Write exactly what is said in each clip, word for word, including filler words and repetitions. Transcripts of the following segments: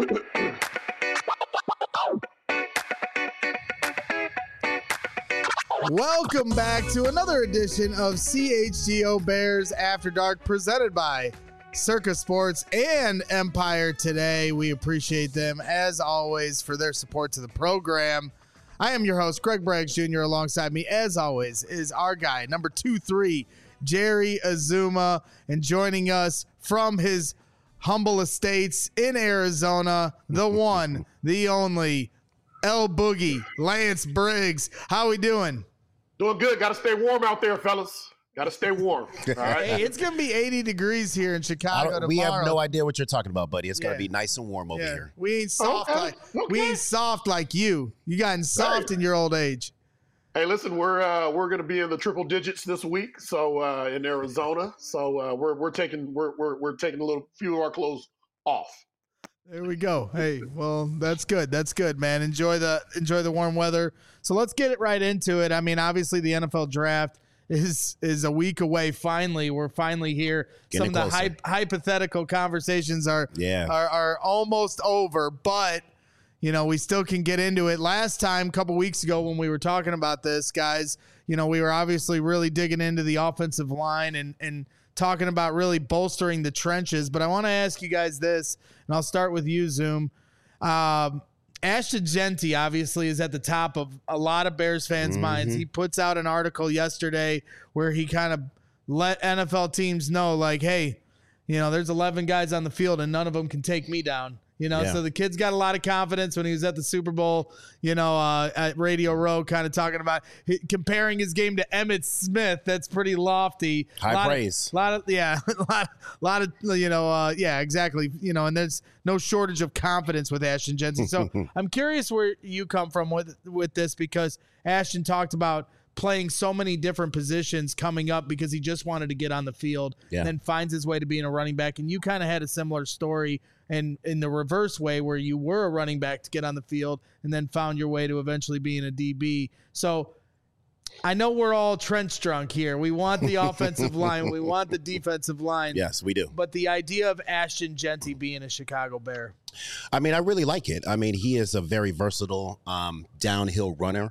Welcome back to another edition of C H G O Bears After Dark, presented by Circa Sports and Empire Today. We appreciate them, as always, for their support to the program. I am your host, Greg Braggs Junior Alongside me, as always, is our guy, number two three, Jerry Azuma. And joining us from his humble estates in Arizona, the one, the only, El Boogie, Lance Briggs. How we doing? Doing good. Got to stay warm out there, fellas. Got to stay warm. All right. Hey, it's going to be eighty degrees here in Chicago tomorrow. We have no idea what you're talking about, buddy. It's Yeah. going to be nice and warm over Yeah. here. We ain't soft Okay. like Okay. we ain't soft like you. You gotten soft Hey. in your old age. Hey, listen, we're uh, we're going to be in the triple digits this week, so uh, in Arizona. So uh, we're we're taking we're we're we're taking a little few of our clothes off. There we go. Hey, well, that's good. That's good, man. Enjoy the enjoy the warm weather. So let's get it right into it. I mean, obviously the N F L draft is is a week away. Finally, we're finally here. Getting Some of the closer. hy- hypothetical conversations are Yeah. are are almost over, but you know, we still can get into it. Last time, a couple weeks ago, when we were talking about this, guys, you know, we were obviously really digging into the offensive line and and talking about really bolstering the trenches. But I want to ask you guys this, and I'll start with you, Zoom. Um, Ashton Jeanty obviously is at the top of a lot of Bears fans' minds. He puts out an article yesterday where he kind of let N F L teams know, like, hey, you know, there's eleven guys on the field and none of them can take me down. You know, Yeah. so the kid's got a lot of confidence when he was at the Super Bowl, you know, uh, at Radio Row, kind of talking about h- comparing his game to Emmitt Smith. That's pretty lofty. High lot praise. Of, lot of, yeah, a lot, lot of, you know, uh, yeah, exactly. You know, and there's no shortage of confidence with Ashton Jeanty. So I'm curious where you come from with, with this, because Ashton talked about playing so many different positions coming up because he just wanted to get on the field Yeah. and then finds his way to being a running back. And you kind of had a similar story, and in the reverse way, where you were a running back to get on the field and then found your way to eventually being a D B. So I know we're all trench drunk here. We want the offensive line. We want the defensive line. Yes, we do. But the idea of Ashton Jeanty being a Chicago Bear. I mean, I really like it. I mean, he is a very versatile um, downhill runner.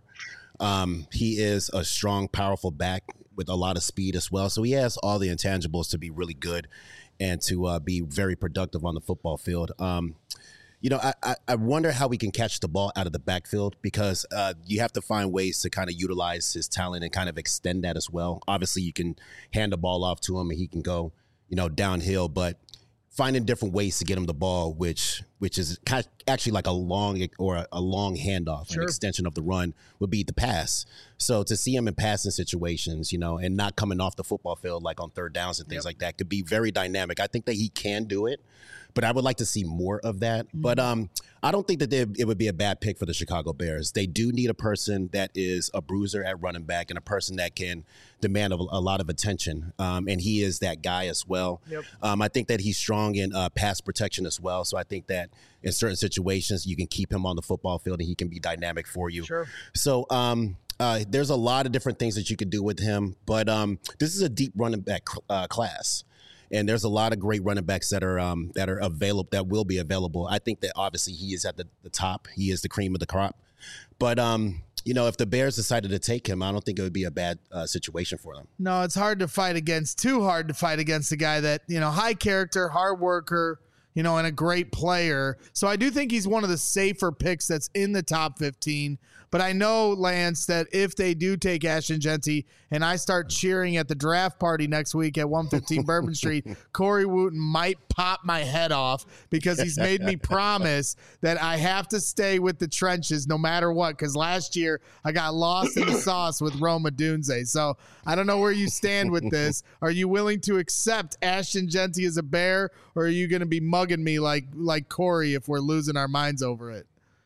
Um, he is a strong, powerful back with a lot of speed as well. So he has all the intangibles to be really good and to uh, be very productive on the football field. Um, you know, I, I, I wonder how we can catch the ball out of the backfield, because uh, you have to find ways to kind of utilize his talent and kind of extend that as well. Obviously, you can hand the ball off to him and he can go, you know, downhill, but finding different ways to get him the ball, which which is kind of actually like a long or a, a long handoff, Sure. an extension of the run, would be the pass. So to see him in passing situations, you know, and not coming off the football field like on third downs and things Yep. like that could be very dynamic. I think that he can do it, but I would like to see more of that. Mm-hmm. But um, I don't think that they, it would be a bad pick for the Chicago Bears. They do need a person that is a bruiser at running back and a person that can demand a, a lot of attention. Um, and he is that guy as well. Yep. Um, I think that he's strong in uh, pass protection as well. So I think that in certain situations, you can keep him on the football field and he can be dynamic for you. Sure. So um, uh, there's a lot of different things that you could do with him. But um, this is a deep running back uh, class. And there's a lot of great running backs that are um, that are available, that will be available. I think that obviously he is at the, the top. He is the cream of the crop. But, um, you know, if the Bears decided to take him, I don't think it would be a bad uh, situation for them. No, it's hard to fight against, too hard to fight against a guy that, you know, high character, hard worker, you know, and a great player. So I do think he's one of the safer picks that's in the top fifteen. But I know, Lance, that if they do take Ashton Jeanty and I start cheering at the draft party next week at one fifteen Bourbon Street, Corey Wooten might pop my head off, because he's made me promise that I have to stay with the trenches no matter what, because last year I got lost in the sauce with Rome Odunze. So I don't know where you stand with this. Are you willing to accept Ashton Jeanty as a Bear, or are you going to be mugging me like like Corey if we're losing our minds over it?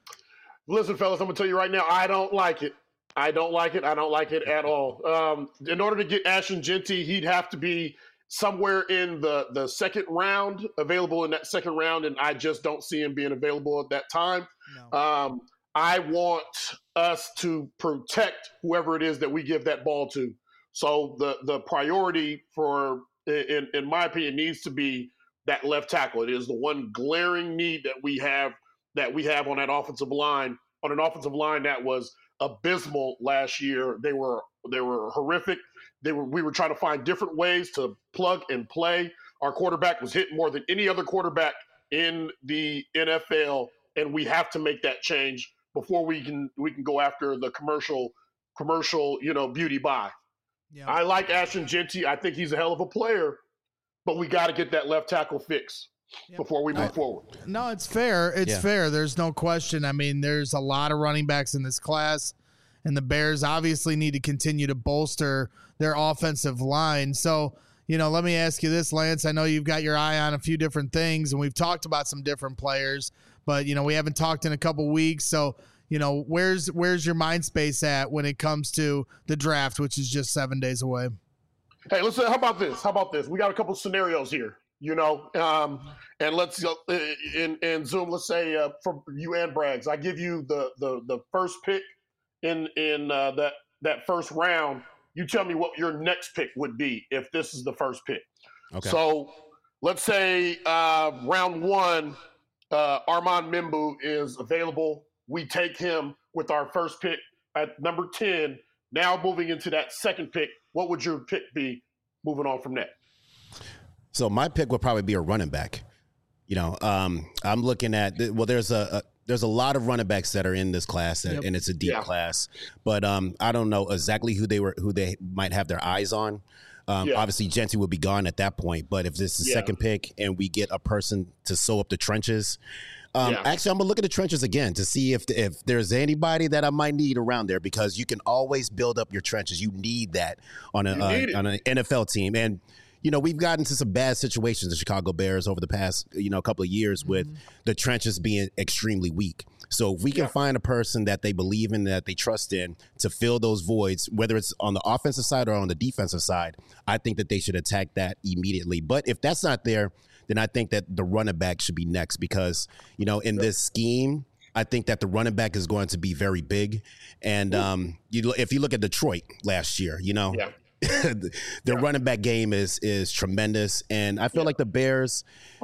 Listen, fellas, I'm gonna tell you right now, I don't like it. I don't like it. I don't like it at all. Um, in order to get Ashton Jeanty, he'd have to be somewhere in the the second round, available in that second round, and I just don't see him being available at that time. No. Um, I want us to protect whoever it is that we give that ball to. So the the priority for, in in my opinion, needs to be that left tackle. It is the one glaring need that we have that we have on that offensive line, on an offensive line that was abysmal last year. They were they were horrific. They were we were trying to find different ways to plug and play. Our quarterback was hit more than any other quarterback in the N F L, and we have to make that change before we can we can go after the commercial commercial, you know, beauty buy. Yeah. I like Ashton Jeanty. I think he's a hell of a player, but we got to get that left tackle fixed yep. before we move no, forward. No, it's fair. It's yeah. fair. There's no question. I mean, there's a lot of running backs in this class, and the Bears obviously need to continue to bolster their offensive line. So, you know, let me ask you this, Lance. I know you've got your eye on a few different things, and we've talked about some different players, but, you know, we haven't talked in a couple weeks. So, you know, where's where's your mind space at when it comes to the draft, which is just seven days away? Hey, listen, how about this? How about this? We got a couple scenarios here, you know, um, and let's go uh, in, in Zoom, let's say uh, for you and Braggs, I give you the the the first pick in, in uh, that, that first round. You tell me what your next pick would be if this is the first pick. Okay. So let's say uh, round one, uh, Armand Membu is available. We take him with our first pick at number ten. Now moving into that second pick, what would your pick be moving on from that? So my pick would probably be a running back. You know, um, I'm looking at, well, there's a, a there's a lot of running backs that are in this class, that, yep. and it's a deep yeah. class. But um, I don't know exactly who they were, who they might have their eyes on. Um, yeah. Obviously, Jeanty would be gone at that point. But if this is the yeah. second pick and we get a person to sew up the trenches, um, yeah. actually, I'm gonna look at the trenches again to see if if there's anybody that I might need around there, because you can always build up your trenches. You need that on a uh, on an N F L team. And you know, we've gotten to some bad situations, the Chicago Bears, over the past, you know, couple of years mm-hmm. with the trenches being extremely weak. So if we can yeah. find a person that they believe in, that they trust in, to fill those voids, whether it's on the offensive side or on the defensive side, I think that they should attack that immediately. But if that's not there, then I think that the running back should be next, because, you know, in this scheme, I think that the running back is going to be very big. And um, you, if you look at Detroit last year, you know, yeah. the yeah. running back game is is tremendous, and I feel yeah. like the Bears,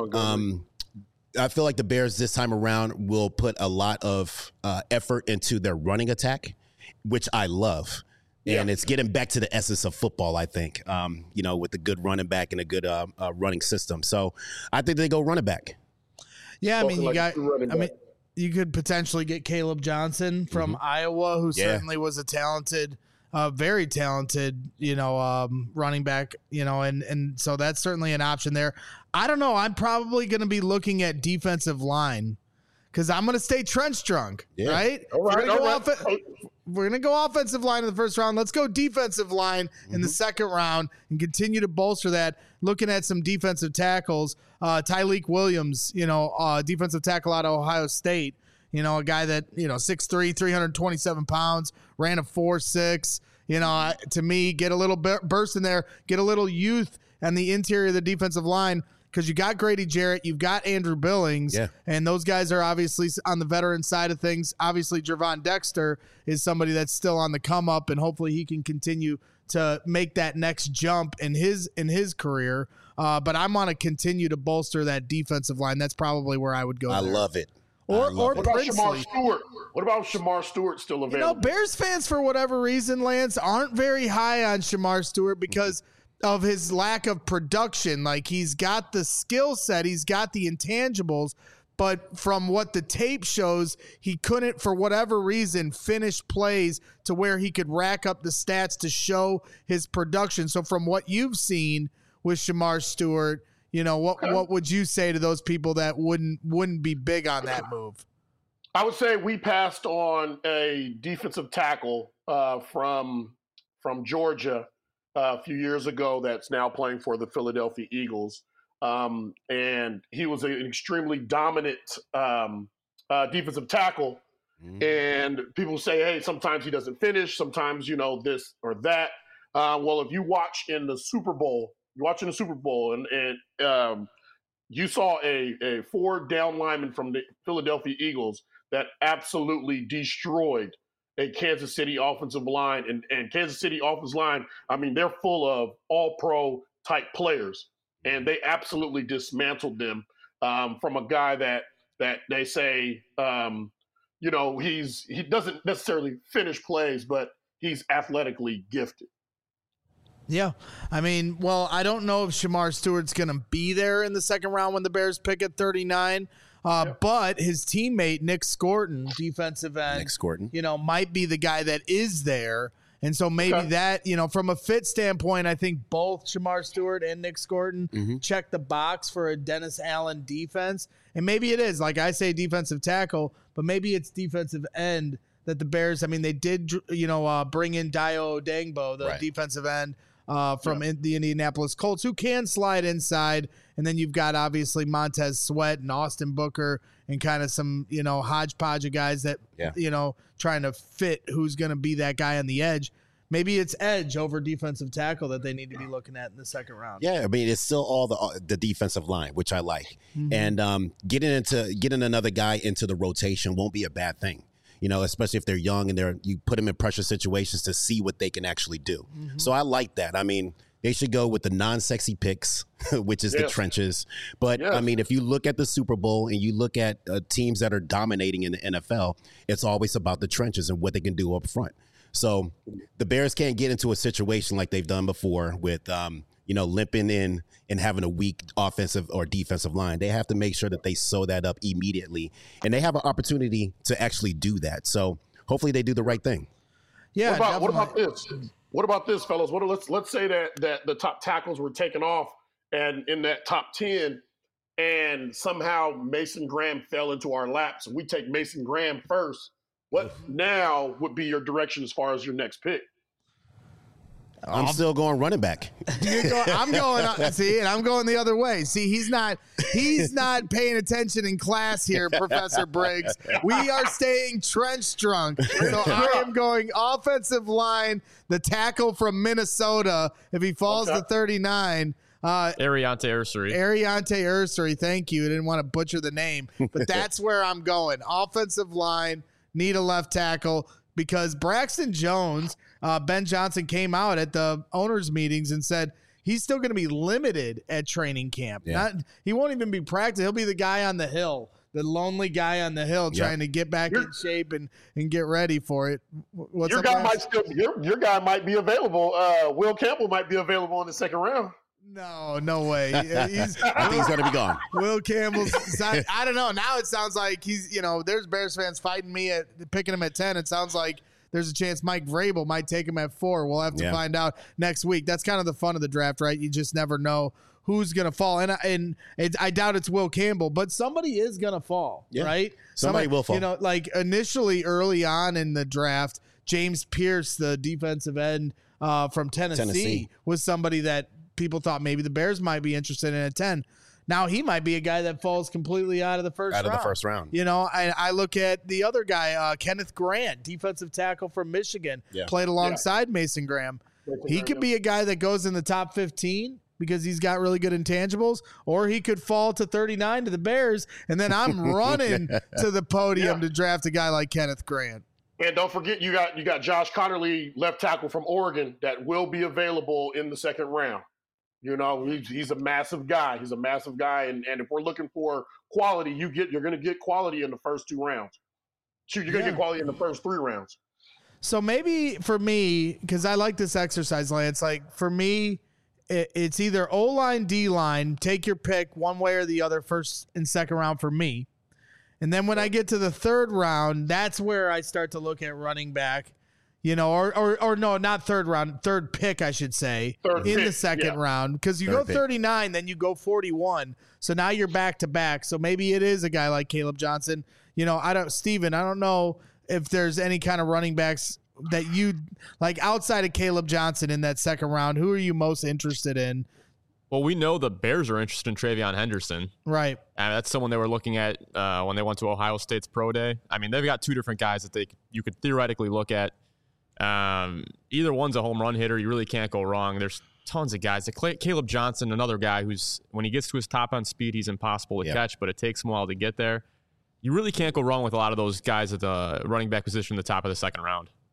um, I feel like the Bears this time around will put a lot of uh, effort into their running attack, which I love, and yeah. it's getting back to the essence of football. I think, um, you know, with a good running back and a good uh, uh, running system. So I think they go running back. Yeah, I mean, you like got. I mean, you could potentially get Caleb Johnson from mm-hmm. Iowa, who yeah. certainly was a talented. Uh, very talented, you know, um, running back, you know, and, and so that's certainly an option there. I don't know. I'm probably going to be looking at defensive line, because I'm going to stay trench drunk, yeah. right? All right, we're all going right. off- we're going to go offensive line in the first round. Let's go defensive line mm-hmm. in the second round and continue to bolster that. Looking at some defensive tackles, uh, Tyleik Williams, you know, uh, defensive tackle out of Ohio State. You know, a guy that, you know, six three, three hundred twenty-seven pounds, ran a four six. You know, I, to me, get a little burst in there, get a little youth on the interior of the defensive line, because you got Grady Jarrett, you've got Andrew Billings, yeah. and those guys are obviously on the veteran side of things. Obviously, Gervon Dexter is somebody that's still on the come up, and hopefully he can continue to make that next jump in his in his career. Uh, but I'm going to continue to bolster that defensive line. That's probably where I would go. I there. love it. Or, or what about Shamar Stewart? What about Shamar Stewart still available? You know, Bears fans, for whatever reason, Lance, aren't very high on Shamar Stewart because of his lack of production. Like, he's got the skill set, he's got the intangibles, but from what the tape shows, he couldn't, for whatever reason, finish plays to where he could rack up the stats to show his production. So from what you've seen with Shamar Stewart, you know, what what would you say to those people that wouldn't wouldn't be big on that move? I would say we passed on a defensive tackle uh, from from Georgia uh, a few years ago that's now playing for the Philadelphia Eagles. Um, and he was an extremely dominant um, uh, defensive tackle. Mm-hmm. And people say, hey, sometimes he doesn't finish, sometimes, you know, this or that. Uh, well, if you watch in the Super Bowl, you're watching the Super Bowl and, and um, you saw a, a four down lineman from the Philadelphia Eagles that absolutely destroyed a Kansas City offensive line. And, and Kansas City offensive line, I mean, they're full of all-pro type players. and they absolutely dismantled them um, from a guy that that they say, um, you know, he's he doesn't necessarily finish plays, but he's athletically gifted. Yeah. I mean, well, I don't know if Shamar Stewart's going to be there in the second round when the Bears pick at thirty-nine. Uh, yep. But his teammate, Nick Scorton, defensive end, Nick Scorton, you know, might be the guy that is there. And so maybe okay. that, you know, from a fit standpoint, I think both Shamar Stewart and Nick Scorton mm-hmm. check the box for a Dennis Allen defense. And maybe it is, like I say, defensive tackle, but maybe it's defensive end that the Bears, I mean, they did, you know, uh, bring in Dio Dangbo, the right. defensive end uh, from yeah. in the Indianapolis Colts, who can slide inside. And then you've got, obviously, Montez Sweat and Austin Booker and kind of some, you know, hodgepodge of guys that, yeah. you know, trying to fit who's going to be that guy on the edge. Maybe it's edge over defensive tackle that they need to be looking at in the second round. Yeah, I mean, it's still all the the defensive line, which I like. Mm-hmm. And um, getting into getting another guy into the rotation won't be a bad thing. You know, especially if they're young and they're you put them in pressure situations to see what they can actually do. Mm-hmm. So I like that. I mean, they should go with the non-sexy picks, which is yes. the trenches. But, yes. I mean, if you look at the Super Bowl and you look at uh, teams that are dominating in the N F L, it's always about the trenches and what they can do up front. So the Bears can't get into a situation like they've done before with, um, you know, limping in and having a weak offensive or defensive line. They have to make sure that they sew that up immediately. And they have an opportunity to actually do that. So hopefully they do the right thing. Yeah. What about, what about this? What about this, fellas? What let's let's say that that the top tackles were taken off and in that top ten, and somehow Mason Graham fell into our laps. We take Mason Graham first. What now would be your direction as far as your next pick? I'm um, still going running back. You're going, I'm going. Uh, see, and I'm going the other way. See, he's not. He's not paying attention in class here, Professor Briggs. We are staying trench drunk. So I am going offensive line. The tackle from Minnesota. If he falls okay. to thirty-nine. Uh, Ariante Ursary. Ariante Ursary. Thank you. I didn't want to butcher the name, but that's where I'm going. Offensive line. Need a left tackle. Because Braxton Jones, uh, Ben Johnson came out at the owners' meetings and said he's still going to be limited at training camp. Yeah. Not, he won't even be practicing. He'll be the guy on the hill, the lonely guy on the hill trying yeah. to get back your, in shape and, and get ready for it. What's your up, guy Braxton? might still your, your guy might be available. Uh, Will Campbell might be available in the second round. No, no way. He's, I think he's going to be gone. Will Campbell's. I, I don't know. Now it sounds like he's, you know, there's Bears fans fighting me at picking him at ten. It sounds like there's a chance Mike Vrabel might take him at four. We'll have to yeah. find out next week. That's kind of the fun of the draft, right? You just never know who's going to fall. And, and it, I doubt it's Will Campbell, but somebody is going to fall, yeah. right? Somebody, somebody will fall. You know, like initially early on in the draft, James Pierce, the defensive end uh, from Tennessee, Tennessee, was somebody that people thought maybe the Bears might be interested in at ten. Now he might be a guy that falls completely out of the first out round. of the first round. You know, I, I look at the other guy, uh, Kenneth Grant, defensive tackle from Michigan, yeah. played alongside yeah. Mason Graham. Mason he Graham, could be a guy that goes in the top fifteen because he's got really good intangibles, or he could fall to thirty-nine to the Bears, and then I'm running to the podium yeah. to draft a guy like Kenneth Grant. And don't forget, you got you got Josh Connerly, left tackle from Oregon, that will be available in the second round. You know, he's, he's a massive guy. He's a massive guy, and, and if we're looking for quality, you get you're going to get quality in the first two rounds. Shoot, you're going to yeah. get quality in the first three rounds. So maybe for me, because I like this exercise, Lance. Like for me, it, it's either O line, D line. Take your pick, one way or the other, first and second round for me. And then when I get to the third round, that's where I start to look at running back. You know, or, or or no, not third round, third pick, I should say, third in pick, the second yeah. round. Because you third go thirty-nine, pick. Then you go forty-one. So now you're back to back. So maybe it is a guy like Caleb Johnson. You know, I don't, Steven, I don't know if there's any kind of running backs that you like outside of Caleb Johnson in that second round. Who are you most interested in? Well, we know the Bears are interested in Travion Henderson. Right. And that's someone they were looking at uh, when they went to Ohio State's pro day. I mean, they've got two different guys that they you could theoretically look at. Um, either one's a home run hitter. You really can't go wrong. There's tons of guys. Caleb Johnson, another guy who's, when he gets to his top end speed, he's impossible to yep. catch, but it takes him a while to get there. You really can't go wrong with a lot of those guys at the running back position, the top of the second round.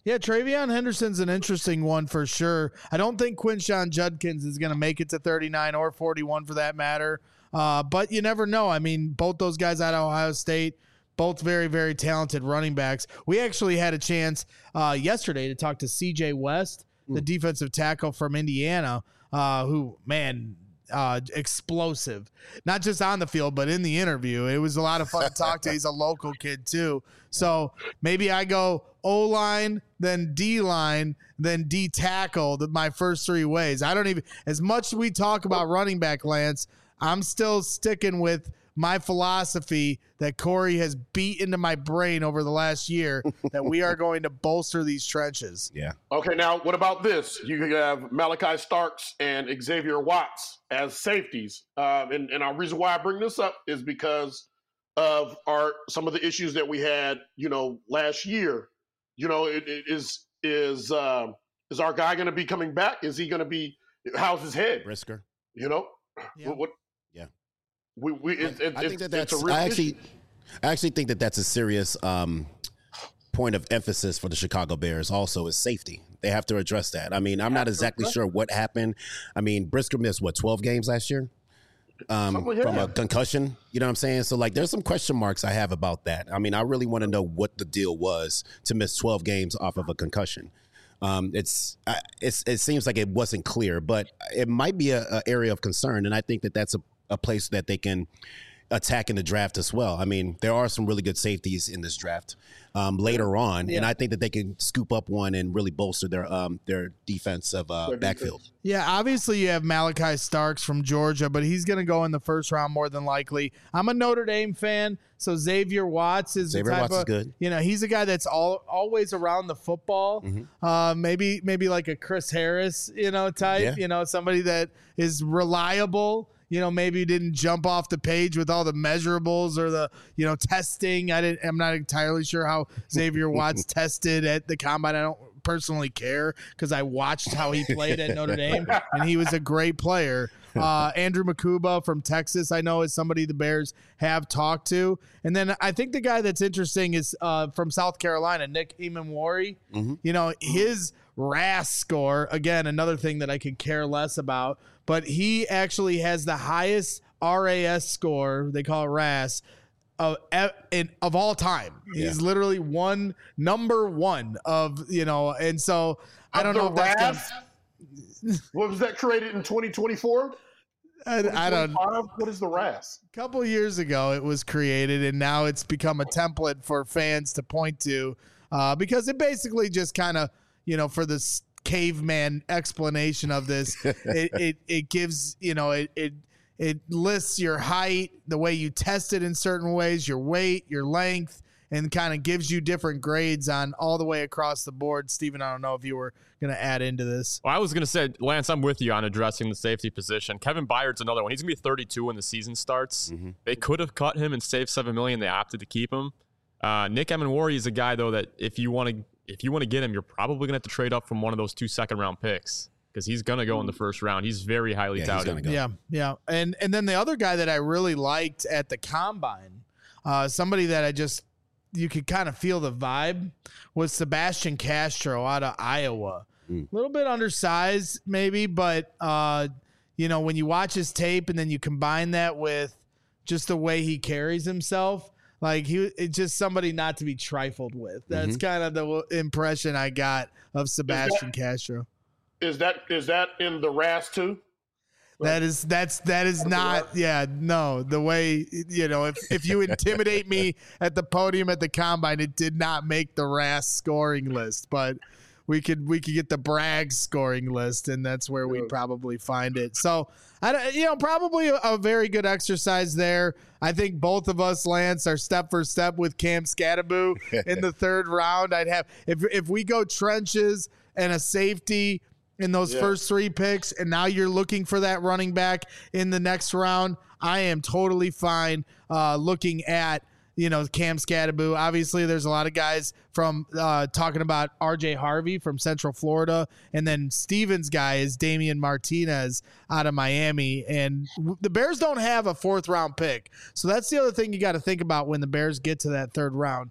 Yeah, Travion Henderson's an interesting one for sure. I don't think Quinshon Judkins is going to make it to thirty-nine or forty-one for that matter. Uh, but you never know. I mean, both those guys out of Ohio State, both very, very talented running backs. We actually had a chance uh, yesterday to talk to C J West, the defensive tackle from Indiana, uh, who, man, uh, explosive. Not just on the field, but in the interview. It was a lot of fun to talk to. He's a local kid, too. So maybe I go O-line, then D-line, then D-tackle, my first three ways. I don't even – as much as we talk about running back, Lance, I'm still sticking with my philosophy that Corey has beat into my brain over the last year that we are going to bolster these trenches. Yeah. Okay, now what about this? You have Malachi Starks and Xavier Watts as safeties. Um, and, and our reason why I bring this up is because of our some of the issues that we had, you know, last year. You know, it, it is is uh, is our guy going to be coming back? Is he going to be – how's his head? Brisker. You know? Yeah. What, what Yeah. We, we, it, it, I think that it's that's. a real I actually, issue. I actually think that that's a serious um, point of emphasis for the Chicago Bears. Also, is safety. They have to address that. I mean, I'm not exactly sure what happened. I mean, Brisker missed what twelve games last year um, Something like from that. a concussion. You know what I'm saying? So, like, there's some question marks I have about that. I mean, I really want to know what the deal was to miss twelve games off of a concussion. Um, it's, I, it's it seems like it wasn't clear, but it might be a, a area of concern, and I think that that's a a place that they can attack in the draft as well. I mean, there are some really good safeties in this draft um, later on, Yeah. and I think that they can scoop up one and really bolster their um, their defensive uh, Their backfield. defense. Yeah, obviously you have Malachi Starks from Georgia, but he's going to go in the first round more than likely. I'm a Notre Dame fan, so Xavier Watts is Xavier the type Watts of, is good. You know, he's a guy that's all always around the football. Mm-hmm. Uh, maybe maybe like a Chris Harris, you know, type. Yeah. You know, somebody that is reliable. You know, maybe didn't jump off the page with all the measurables or the, you know, testing. I didn't. I'm not entirely sure how Xavier Watts tested at the combine. I don't personally care because I watched how he played at Notre Dame, and he was a great player. Uh, Andrew Makuba from Texas, I know, is somebody the Bears have talked to. And then I think the guy that's interesting is uh, from South Carolina, Nick Imamwari. Mm-hmm. You know, his R A S score, again, another thing that I could care less about, but he actually has the highest R A S score, they call it R A S, of, in, of all time. Yeah. He's literally one, number one of, you know, and so I don't Of know if the that's R A gonna, S? What was that created in twenty twenty-four? I, I don't What is the R A S? A couple years ago, it was created, and now it's become a template for fans to point to uh, because it basically just kind of, you know, for this caveman explanation of this, it, it it gives, you know, it it it lists your height, the way you test it in certain ways, your weight, your length, and kind of gives you different grades on all the way across the board. Steven, I don't know if you were going to add into this. Well, I was going to say, Lance, I'm with you on addressing the safety position. Kevin Byard's another one. He's going to be thirty-two when the season starts. Mm-hmm. They could have cut him and saved seven million dollars. They opted to keep him. Uh, Nick Emmanwori is a guy, though, that if you want to if you want to get him, you're probably going to have to trade up from one of those two second-round picks because he's going to go in the first round. He's very highly Yeah, he's touted. gonna go. Yeah, yeah. And and then the other guy that I really liked at the combine, uh, somebody that I just you could kind of feel the vibe, was Sebastian Castro out of Iowa. Mm. A little bit undersized maybe, but uh, you know, when you watch his tape and then you combine that with just the way he carries himself, like he it's just somebody not to be trifled with. That's kind of the impression I got of Sebastian Castro. Is that is that in the R A S too? That is that's that is not yeah no the way you know if if you intimidate me at the podium at the combine, it did not make the R A S scoring list, but we could we could get the Bragg scoring list, and that's where we'd probably find it. So I don't- you know probably a, a very good exercise there. I think both of us, Lance, are step for step with Cam Scattaboo in the third round. I'd have if if we go trenches and a safety in those Yeah. first three picks, and now you're looking for that running back in the next round, I am totally fine uh, looking at, you know, Cam Scattaboo. Obviously, there's a lot of guys from uh, talking about R J Harvey from Central Florida, and then Steven's guy is Damian Martinez out of Miami. And w- the Bears don't have a fourth round pick, so that's the other thing you got to think about when the Bears get to that third round.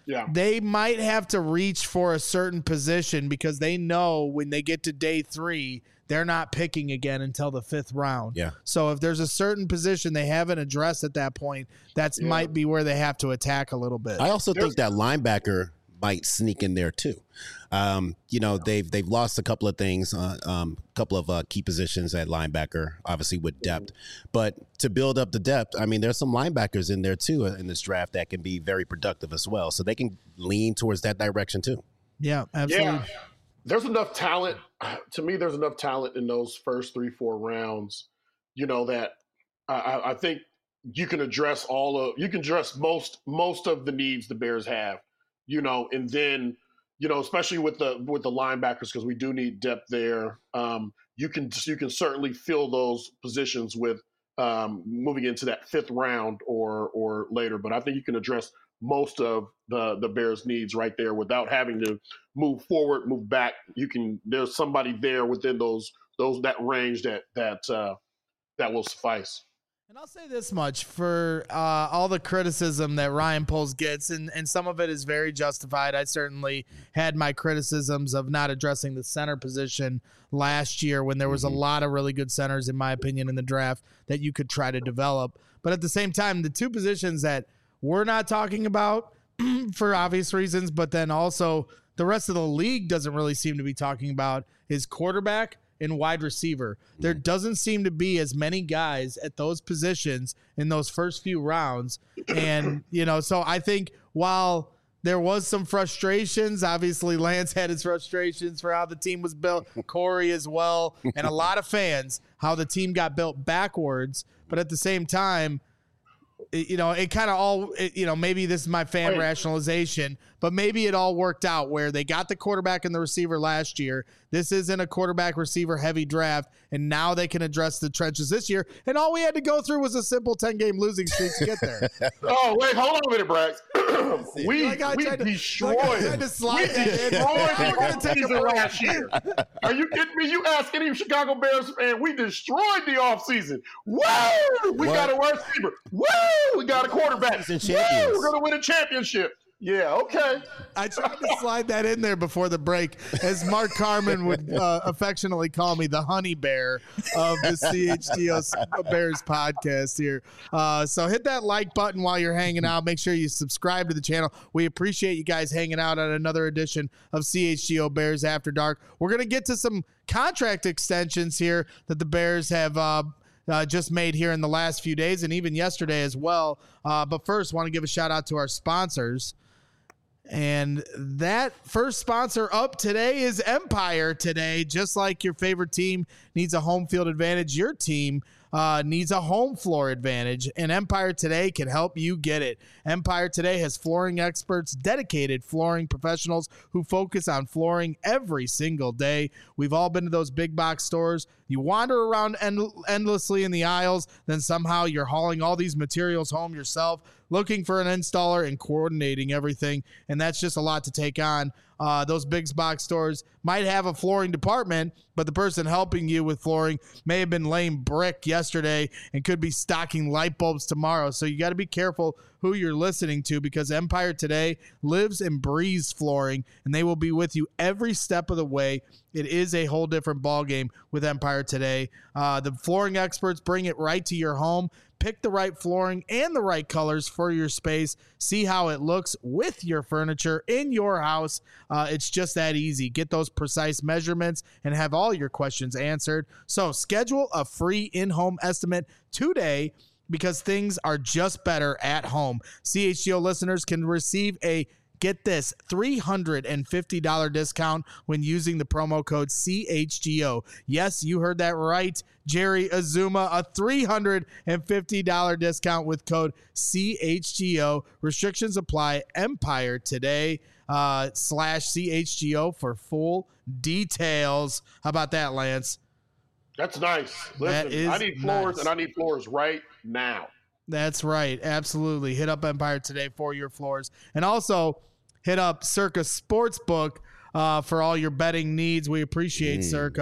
Yeah. They might have to reach for a certain position because they know when they get to day three, they're not picking again until the fifth round. Yeah. So if there's a certain position they haven't addressed at that point, that's Yeah. might be where they have to attack a little bit. I also think that linebacker might sneak in there too. Um, you know, they've they've lost a couple of things, uh, um, a couple of uh, key positions at linebacker, obviously with depth. But to build up the depth, I mean, there's some linebackers in there too in this draft that can be very productive as well. So they can lean towards that direction too. Yeah, absolutely. Yeah. There's enough talent. To me, there's enough talent in those first three, four rounds, you know, that I, I think you can address all of, you can address most, most of the needs the Bears have, you know, and then, you know, especially with the, with the linebackers, because we do need depth there. Um, you can, you can certainly fill those positions with um, moving into that fifth round or, or later. But I think you can address most of the, the Bears' needs right there without having to move forward, move back. You can, there's somebody there within those, those, that range that, that, uh, that will suffice. And I'll say this much for uh, all the criticism that Ryan Poles gets, and, and some of it is very justified. I certainly had my criticisms of not addressing the center position last year when there was Mm-hmm. a lot of really good centers, in my opinion, in the draft that you could try to develop. But at the same time, the two positions that we're not talking about for obvious reasons, but then also the rest of the league doesn't really seem to be talking about is quarterback and wide receiver. There doesn't seem to be as many guys at those positions in those first few rounds. And, you know, so I think while there was some frustrations, obviously Lance had his frustrations for how the team was built, Corey as well, and a lot of fans, how the team got built backwards. But at the same time, it, you know, it kind of all, it, you know, maybe this is my fan Wait. rationalization, but maybe it all worked out where they got the quarterback and the receiver last year. This isn't a quarterback receiver heavy draft, and now they can address the trenches this year. And all we had to go through was a simple ten game losing streak to get there. Oh, wait, hold on a minute, Brax. we Like I we tried to- destroyed, like I tried to slide we that in. destroyed We're the gonna take a offseason break. last year. Are you kidding me? You ask any Chicago Bears fan, we destroyed the offseason. Woo! We What? got a wide receiver. Woo! We got a quarterback. Season Woo! champions. We're going to win a championship. Yeah, okay. I tried to slide that in there before the break, as Mark Carman would uh, affectionately call me, the honey bear of the C H G O Bears podcast here. Uh, so hit that like button while you're hanging out. Make sure you subscribe to the channel. We appreciate you guys hanging out on another edition of C H G O Bears After Dark. We're going to get to some contract extensions here that the Bears have uh, Uh, just made here in the last few days and even yesterday as well. Uh, but first, want to give a shout out to our sponsors. And that first sponsor up today is Empire Today. Just like your favorite team needs a home field advantage, your team uh, needs a home floor advantage, and Empire Today can help you get it. Empire Today has flooring experts, dedicated flooring professionals who focus on flooring every single day. We've all been to those big box stores. You wander around end- endlessly in the aisles, then somehow you're hauling all these materials home yourself, looking for an installer and coordinating everything, and that's just a lot to take on. Uh, those big box stores might have a flooring department, but the person helping you with flooring may have been laying brick yesterday and could be stocking light bulbs tomorrow. So you got to be careful who you're listening to, because Empire Today lives and breathes flooring, and they will be with you every step of the way. It is a whole different ballgame with Empire Today. Uh, the flooring experts bring it right to your home. Pick the right flooring and the right colors for your space. See how it looks with your furniture in your house. Uh, it's just that easy. Get those precise measurements and have all your questions answered. So schedule a free in-home estimate today, because things are just better at home. C H G O listeners can receive a, get this, three hundred fifty dollars discount when using the promo code C H G O. Yes, you heard that right, Jerry Azuma, a three hundred fifty dollars discount with code C H G O. Restrictions apply. Empire Today uh, slash C H G O for full details. How about that, Lance? That's nice. That Listen, is I need floors, nice. and I need floors right now. That's right. Absolutely. Hit up Empire Today for your floors. And also hit up Circa Sportsbook uh, for all your betting needs. We appreciate Mm. Circa.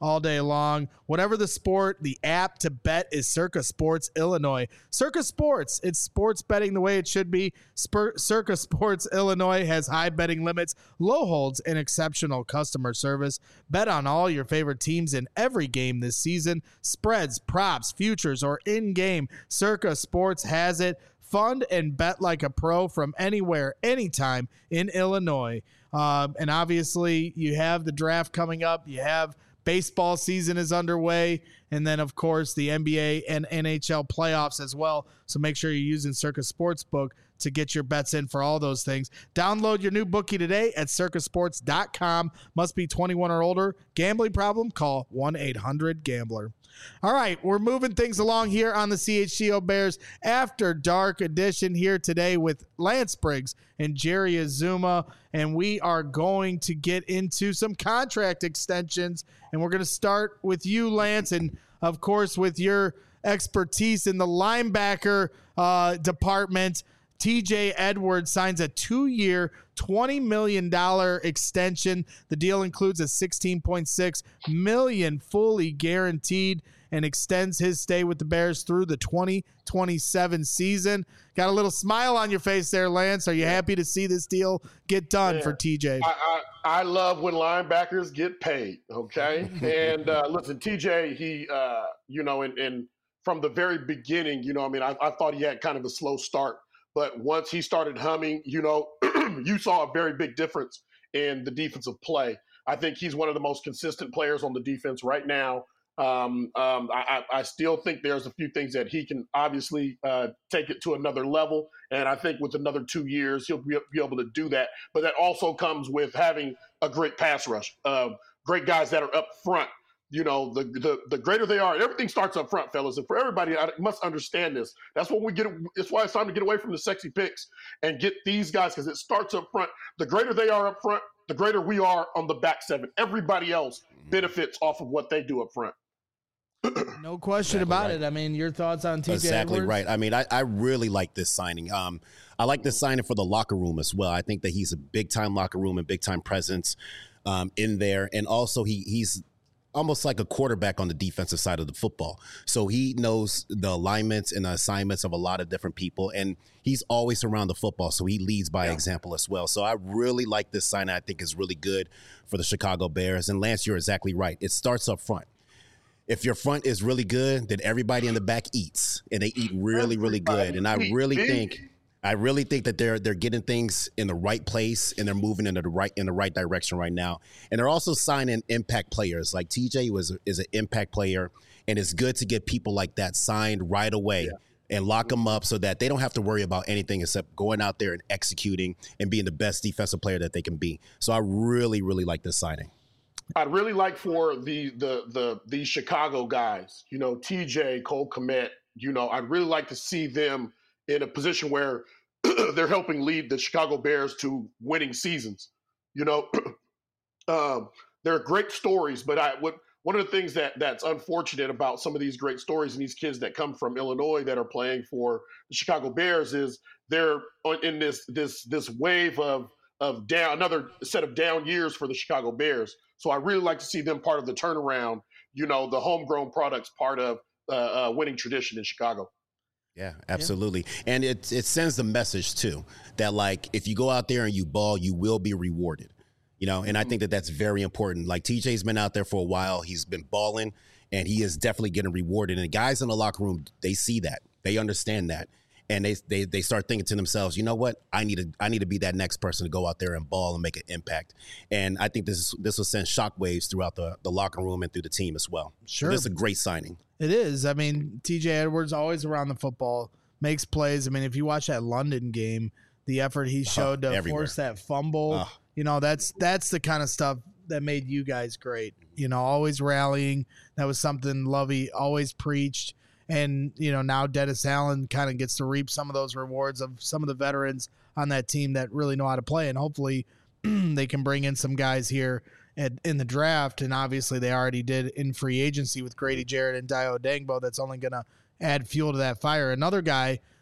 all day long. Whatever the sport, the app to bet is Circa Sports Illinois. Circa Sports, it's sports betting the way it should be. Spur- Circa Sports Illinois has high betting limits, low holds, and exceptional customer service. Bet on all your favorite teams in every game this season. Spreads, props, futures, or in-game. Circa Sports has it. Fund and bet like a pro from anywhere, anytime in Illinois. Um, and obviously, you have the draft coming up. You have baseball season is underway. And then, of course, the N B A and N H L playoffs as well. So make sure you're using Circa Sportsbook to get your bets in for all those things. Download your new bookie today at circa sports dot com. Must be twenty-one or older. Gambling problem? Call one eight hundred gambler. All right, we're moving things along here on the C H G O Bears After Dark edition here today with Lance Briggs and Jerry Azuma, and we are going to get into some contract extensions, and we're going to start with you, Lance, and of course with your expertise in the linebacker uh, department. T J Edwards signs a two-year, twenty million dollars extension. The deal includes a sixteen point six million dollars fully guaranteed and extends his stay with the Bears through the twenty twenty-seven season. Got a little smile on your face there, Lance. Are you happy to see this deal get done yeah. for T J? I, I, I love when linebackers get paid, okay? and uh, listen, T J, he, uh, you know, and, and from the very beginning, you know, I mean, I, I thought he had kind of a slow start. But once he started humming, you know, you saw a very big difference in the defensive play. I think he's one of the most consistent players on the defense right now. Um, um, I, I still think there's a few things that he can obviously uh, take it to another level. And I think with another two years, he'll be, be able to do that. But that also comes with having a great pass rush, uh, great guys that are up front. You know, the, the the greater they are, everything starts up front, fellas. And for everybody, I must understand this. That's what we get. It's why it's time to get away from the sexy picks and get these guys, because it starts up front. The greater they are up front, the greater we are on the back seven. Everybody else benefits off of what they do up front. No question exactly about right. it. I mean, your thoughts on T J Exactly Edwards? right. I mean, I, I really like this signing. Um, I like this signing for the locker room as well. I think that he's a big-time locker room and big-time presence um, in there. And also, he he's – almost like a quarterback on the defensive side of the football. So he knows the alignments and the assignments of a lot of different people, and he's always around the football, so he leads by yeah. example as well. So I really like this sign. I think is really good for the Chicago Bears. And Lance, you're exactly right. It starts up front. If your front is really good, then everybody in the back eats, and they eat really, really good. And I really think I really think that they're they're getting things in the right place, and they're moving in the right in the right direction right now. And they're also signing impact players. Like T J was is an impact player, and it's good to get people like that signed right away yeah. and lock them up so that they don't have to worry about anything except going out there and executing and being the best defensive player that they can be. So I really, really like this signing. I'd really like for the the the the Chicago guys, you know, T J, Cole Kmet, you know, I'd really like to see them in a position where they're helping lead the Chicago Bears to winning seasons. You know, um, they're great stories, but I what one of the things that that's unfortunate about some of these great stories and these kids that come from Illinois that are playing for the Chicago Bears is they're in this this this wave of of down another set of down years for the Chicago Bears. So I really like to see them part of the turnaround. You know, the homegrown products part of uh, uh, winning tradition in Chicago. Yeah, absolutely. Yeah. And it it sends the message, too, that, like, if you go out there and you ball, you will be rewarded, you know, and I think that that's very important. Like, T J's been out there for a while. He's been balling, and he is definitely getting rewarded. And the guys in the locker room, they see that. They understand that. And they they they start thinking to themselves, you know what? I need to I need to be that next person to go out there and ball and make an impact. And I think this is, this will send shockwaves throughout the, the locker room and through the team as well. Sure. So this is a great signing. It is. I mean, T J Edwards always around the football, makes plays. I mean, if you watch that London game, the effort he showed to everywhere. Force that fumble, uh, you know, that's that's the kind of stuff that made you guys great. You know, always rallying. That was something Lovey always preached. And, you know, now Dennis Allen kind of gets to reap some of those rewards of some of the veterans on that team that really know how to play. And hopefully they can bring in some guys here at, in the draft. And obviously they already did in free agency with Grady Jarrett and Dio Dangbo. That's only going to add fuel to that fire. Another guy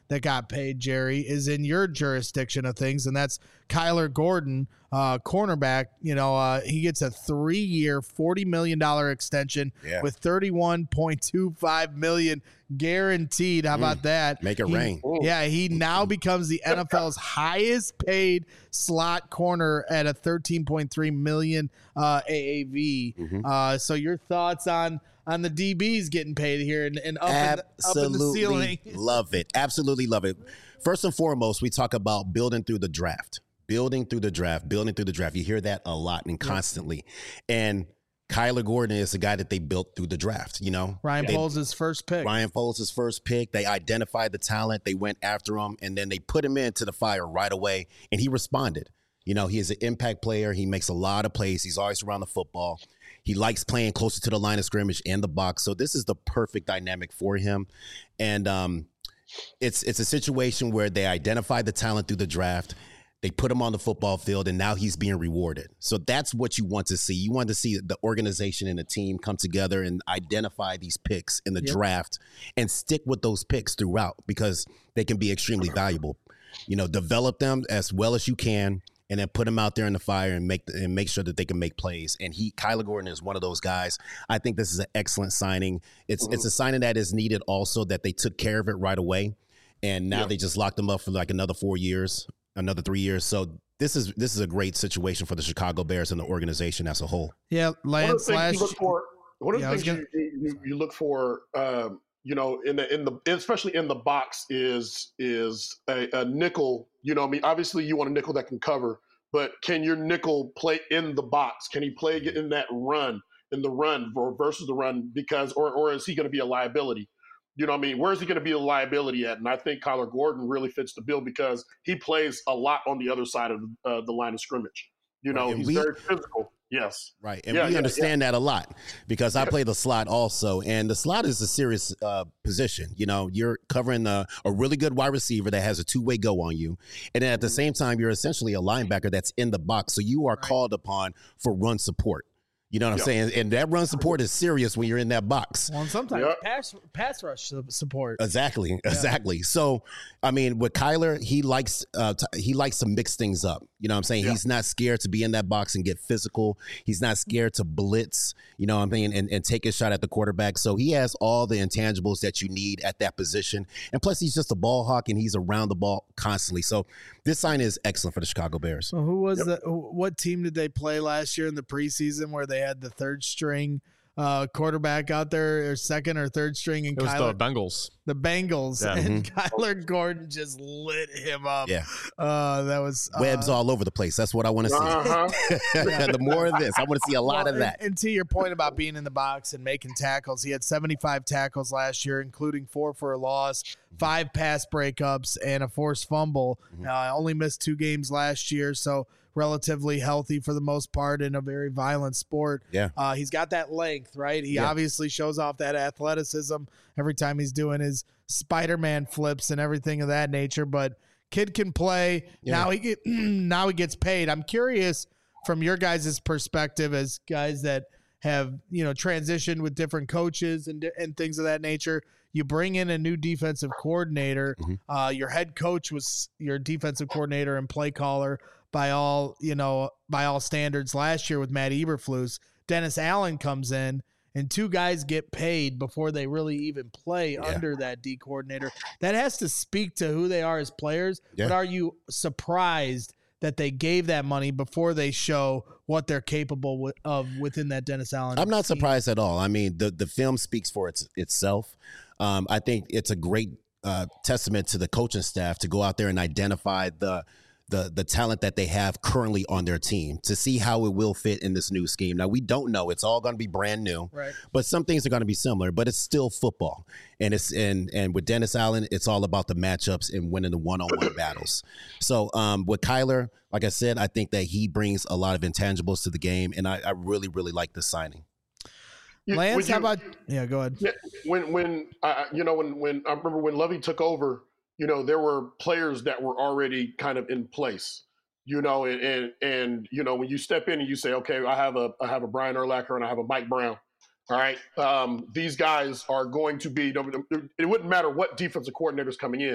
that got paid, Jerry, is in your jurisdiction of things, and that's Kyler Gordon, uh, cornerback. You know, uh, he gets a three-year, forty million dollars extension Yeah. with thirty-one point two five million dollars guaranteed. How about that? Make it He- rain. Yeah, he now becomes the N F L's highest paid slot corner at a thirteen point three million uh, A A V. Mhm. Uh, so your thoughts on on the D Bs getting paid here and, and up, in the, up in the ceiling? Absolutely love it. Absolutely love it. First and foremost, we talk about building through the draft, building through the draft, building through the draft. You hear that a lot and constantly. And Kyler Gordon is the guy that they built through the draft. You know, Ryan They- Poles' first pick. Ryan Foles' first pick. They identified the talent. They went after him, and then they put him into the fire right away, and he responded. You know, he is an impact player. He makes a lot of plays. He's always around the football. He likes playing closer to the line of scrimmage and the box. So this is the perfect dynamic for him. And um, it's it's a situation where they identified the talent through the draft. They put him on the football field, and now he's being rewarded. So that's what you want to see. You want to see the organization and the team come together and identify these picks in the Yep. draft and stick with those picks throughout because they can be extremely valuable. You know, develop them as well as you can, and then put them out there in the fire and make and make sure that they can make plays. And he, Kyler Gordon, is one of those guys. I think this is an excellent signing. It's it's a signing that is needed also that they took care of it right away, and now Yeah. they just locked him up for like another four years. Another three years. So this is this is a great situation for the Chicago Bears and the organization as a whole. Yeah, One of the Lance things last you look for, one of the Yeah, I was things you, you, you look for, um, you know, in the in the especially in the box is is a, a nickel. You know, what I mean, obviously you want a nickel that can cover, but can your nickel play in the box? Can he play in that run, in the run versus the run? Because or or is he going to be a liability? You know what I mean? Where is he going to be a liability at? And I think Kyler Gordon really fits the bill because he plays a lot on the other side of uh, the line of scrimmage. You know, Right, and he's we- very physical. Yes. Right. And Yeah, we yeah, understand that a lot because I Yeah. play the slot also. And the slot is a serious uh, position. You know, you're covering a, a really good wide receiver that has a two way go on you. And then at the same time, you're essentially a linebacker that's in the box. So you are Right. called upon for run support. You know what I'm Yeah. saying? And that run support is serious when you're in that box. Well, and sometimes Yeah. pass pass rush su- support. Exactly, exactly. So, I mean, with Kyler, he likes uh, t- he likes to mix things up. You know what I'm saying? Yeah. He's not scared to be in that box and get physical. He's not scared to blitz, you know what I mean, and, and take a shot at the quarterback. So he has all the intangibles that you need at that position. And plus, he's just a ball hawk, and he's around the ball constantly. So this sign is excellent for the Chicago Bears. So who was the who- what team did they play last year in the preseason where they had the third string uh, quarterback out there, or second or third string, and It was Kyler, the Bengals. the Bengals, Yeah. and Kyler Gordon just lit him up. Yeah. uh, that was uh, Webs all over the place. That's what I want to see. Uh-huh. The more of this, I want to see a lot Well, of that. And, and to your point about being in the box and making tackles, he had seventy-five tackles last year, including four for a loss, five pass breakups, and a forced fumble. Mhm. Uh, only missed two games last year, so relatively healthy for the most part in a very violent sport. Yeah. Uh, he's got that length, right? He Yeah. obviously shows off that athleticism every time he's doing his Spider-Man flips and everything of that nature, but kid can play. Yeah. Now he get, now he gets paid. I'm curious from your guys' perspective as guys that have, you know, transitioned with different coaches and and things of that nature. You bring in a new defensive coordinator. Mhm. Uh, your head coach was your defensive coordinator and play caller by all, you know, by all standards last year with Matt Eberflus. Dennis Allen comes in, and two guys get paid before they really even play Yeah. under that D coordinator. That has to speak to who they are as players. Yeah. But are you surprised that they gave that money before they show what they're capable wi- of within that Dennis Allen? I'm not scheme? surprised at all. I mean, the, the film speaks for its, itself. Um, I think it's a great uh, testament to the coaching staff to go out there and identify the the the talent that they have currently on their team to see how it will fit in this new scheme. Now, we don't know. It's all going to be brand new. Right. But some things are going to be similar, but it's still football. And it's and and with Dennis Allen, it's all about the matchups and winning the one-on-one battles. So um, with Kyler, like I said, I think that he brings a lot of intangibles to the game, and I, I really, really like this signing. You- Lance, would how you- about yeah? Go ahead. Yeah, when when uh, you know when when I remember when Lovey took over, you know there were players that were already kind of in place, you know, and and, and you know when you step in and you say, okay, I have a I have a Brian Urlacher and I have a Mike Brown, all right, um, these guys are going to be. It wouldn't matter what defensive coordinator's coming in.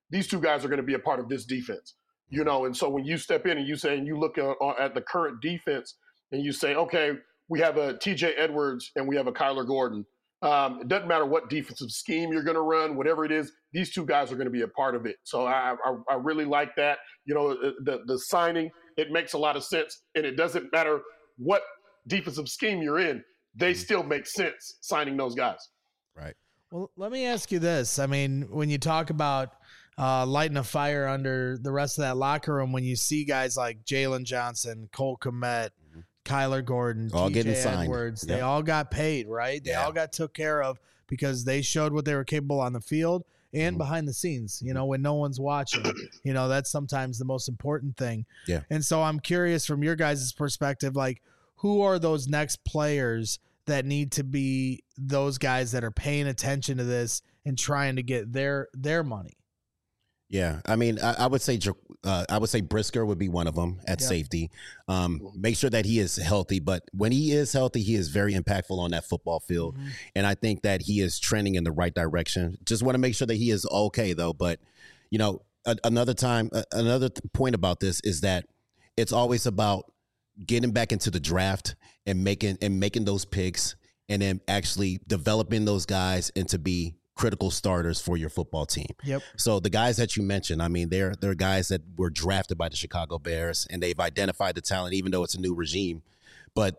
these two guys are going to be a part of this defense. You know, and so when you step in and you say, and you look at, at the current defense and you say, okay, we have a T J Edwards and we have a Kyler Gordon. Um, it doesn't matter what defensive scheme you're going to run, whatever it is, these two guys are going to be a part of it. So I, I, I really like that. You know, the, the signing, it makes a lot of sense. And it doesn't matter what defensive scheme you're in, they still make sense signing those guys. Right. Well, let me ask you this. I mean, when you talk about uh, lighting a fire under the rest of that locker room, when you see guys like Jalen Johnson, Cole Kmet, mm-hmm. Kyler Gordon, all T J getting signed. Edwards, Yep. they all got paid, right? They yeah. all got took care of because they showed what they were capable on the field and mm-hmm. behind the scenes, you know, when no one's watching. You know, that's sometimes the most important thing. Yeah. And so I'm curious from your guys' perspective, like, who are those next players that need to be those guys that are paying attention to this and trying to get their their money? Yeah, I mean, I, I would say uh, I would say Brisker would be one of them at Yep. safety. Um, make sure that he is healthy, but when he is healthy, he is very impactful on that football field, Mm-hmm. and I think that he is trending in the right direction. Just want to make sure that he is okay, though. But you know, a, another time, a, another th- point about this is that it's always about getting back into the draft and making and making those picks, and then actually developing those guys into be critical starters for your football team. Yep. So the guys that you mentioned, I mean, they're they're guys that were drafted by the Chicago Bears, and they've identified the talent, even though it's a new regime. But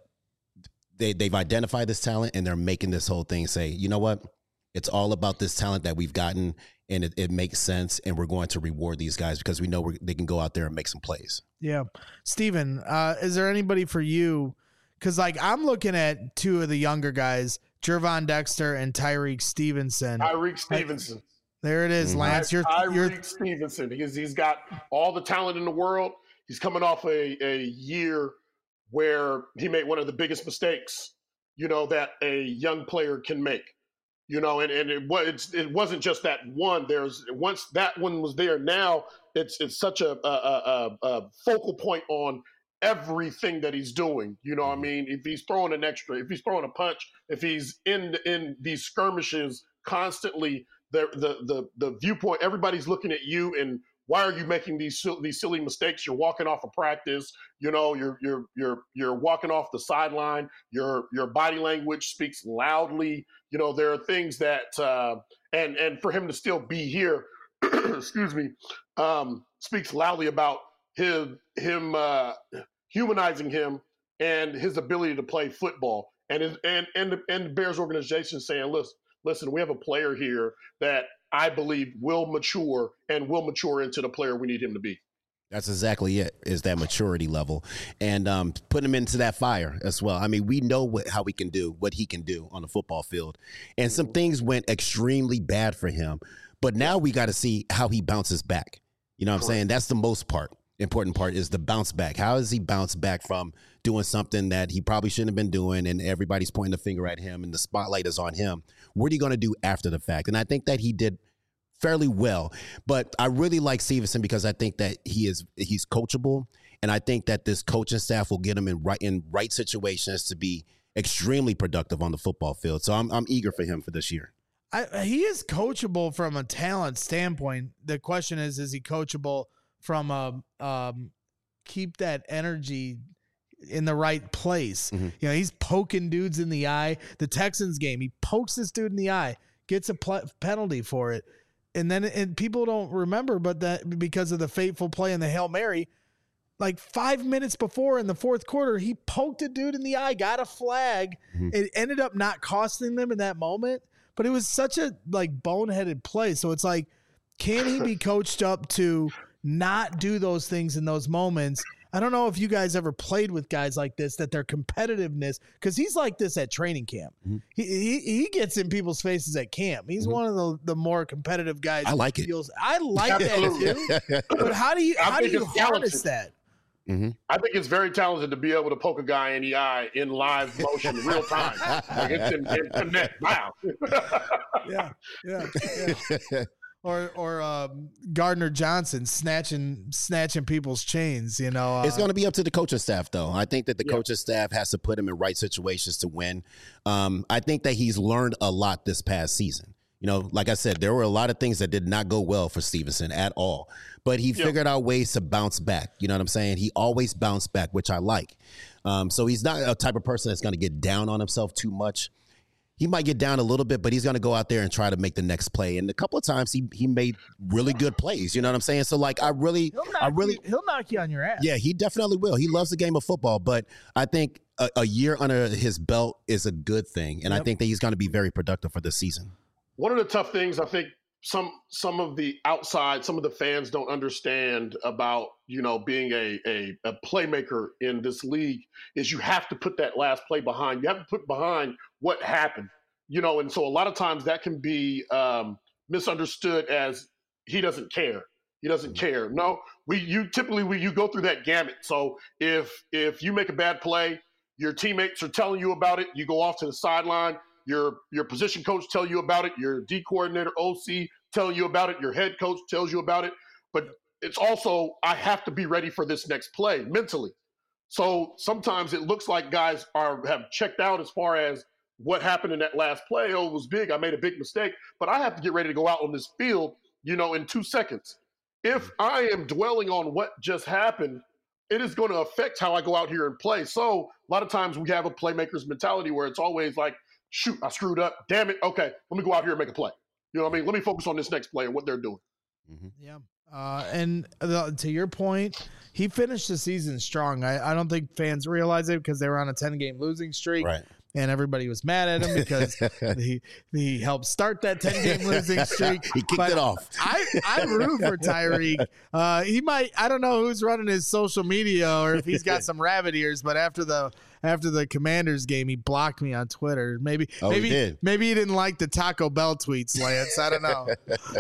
they they've identified this talent, and they're making this whole thing say, you know what? It's all about this talent that we've gotten, and it, it makes sense, and we're going to reward these guys because we know we're, they can go out there and make some plays. Yeah. Steven, uh, is there anybody for you? Because, like, I'm looking at two of the younger guys, Gervon Dexter and Tyreek Stevenson. Tyreek Stevenson. There it is, Mhm. Lance. You're, Tyreek you're Stevenson. He's, he's got all the talent in the world. He's coming off a, a year where he made one of the biggest mistakes, you know, that a young player can make. You know, and, and it was it wasn't just that one. There's once that one was there. Now it's it's such a a, a, a focal point on everything that he's doing. You know what I mean? If he's throwing an extra, if he's throwing a punch, if he's in in these skirmishes constantly, the the the the viewpoint, everybody's looking at you and why are you making these these silly mistakes? You're walking off of practice, you know, you're you're you're you're walking off the sideline. Your your body language speaks loudly. You know, there are things that uh, and and for him to still be here, excuse me, um, speaks loudly about him him uh, humanizing him and his ability to play football. And his, and and the, and the Bears organization saying, listen, listen, we have a player here that I believe will mature and will mature into the player we need him to be. That's exactly it, is that maturity level, and um, put him into that fire as well. I mean, we know what, how we can do, what he can do on the football field. And some things went extremely bad for him, but now we got to see how he bounces back. You know what I'm saying? That's the most part, important part is the bounce back. How does he bounce back from doing something that he probably shouldn't have been doing and everybody's pointing the finger at him and the spotlight is on him? What are you going to do after the fact? And I think that he did fairly well, but I really like Stevenson because I think that he is he's coachable, and I think that this coaching staff will get him in right in right situations to be extremely productive on the football field. So I'm I'm eager for him for this year. I, he is coachable from a talent standpoint. The question is, is he coachable from a um, keep that energy in the right place? Mm-hmm. You know, he's poking dudes in the eye. The Texans game, he pokes this dude in the eye, gets a pl- penalty for it. And then and people don't remember, but that because of the fateful play in the Hail Mary, like five minutes before in the fourth quarter, he poked a dude in the eye, got a flag. Mm-hmm. It ended up not costing them in that moment, but it was such a like boneheaded play. So it's like, can he be coached up to not do those things in those moments? I don't know if you guys ever played with guys like this, that their competitiveness, because he's like this at training camp. Mm-hmm. He, he he gets in people's faces at camp. He's mm-hmm. one of the, the more competitive guys. I like it. Feels, I like that too. But how do you I how do you talented. harness that? Mm-hmm. I think it's very talented to be able to poke a guy in the eye in live motion, in real time. Like it's in, in connect. Wow. yeah, yeah, yeah. Or or um, Gardner Johnson snatching snatching people's chains, you know. Uh, it's going to be up to the coaching staff, though. I think that the yeah. coaching staff has to put him in right situations to win. Um, I think that he's learned a lot this past season. You know, like I said, there were a lot of things that did not go well for Stevenson at all, but he Yep. figured out ways to bounce back. You know what I'm saying? He always bounced back, which I like. Um, so he's not a type of person that's going to get down on himself too much. He might get down a little bit, but he's going to go out there and try to make the next play. And a couple of times he he made really good plays. You know what I'm saying? So like, I really, He'll knock I really, you, he'll knock you on your ass. yeah, he definitely will. He loves the game of football, but I think a, a year under his belt is a good thing. And I Yep. think that he's going to be very productive for this season. One of the tough things I think some some of the outside, some of the fans don't understand about, you know, being a, a, a playmaker in this league is you have to put that last play behind. You have to put behind what happened, you know, and so a lot of times that can be um, misunderstood as he doesn't care. He doesn't care. No, we you typically we you go through that gamut. So if if you make a bad play, your teammates are telling you about it. You go off to the sideline. Your your position coach tell you about it. Your D coordinator, O C, tell you about it. Your head coach tells you about it. But it's also, I have to be ready for this next play mentally. So sometimes it looks like guys are have checked out as far as what happened in that last play. Oh, it was big. I made a big mistake. But I have to get ready to go out on this field, you know, in two seconds. If I am dwelling on what just happened, it is going to affect how I go out here and play. So a lot of times we have a playmaker's mentality where it's always like, shoot, I screwed up. Damn it. Okay, let me go out here and make a play. You know what I mean? Let me focus on this next play and what they're doing. Mm-hmm. Yeah. Uh, and the, to your point, he finished the season strong. I, I don't think fans realize it because they were on a ten-game losing streak. Right. And everybody was mad at him because he he helped start that ten-game losing streak. He kicked But it off. I, I root for Tyreek. Uh, he might, I don't know who's running his social media or if he's got some rabbit ears, but after the after the Commanders game, he blocked me on Twitter. Maybe Oh, he maybe did. maybe he didn't like the Taco Bell tweets, Lance. I don't know.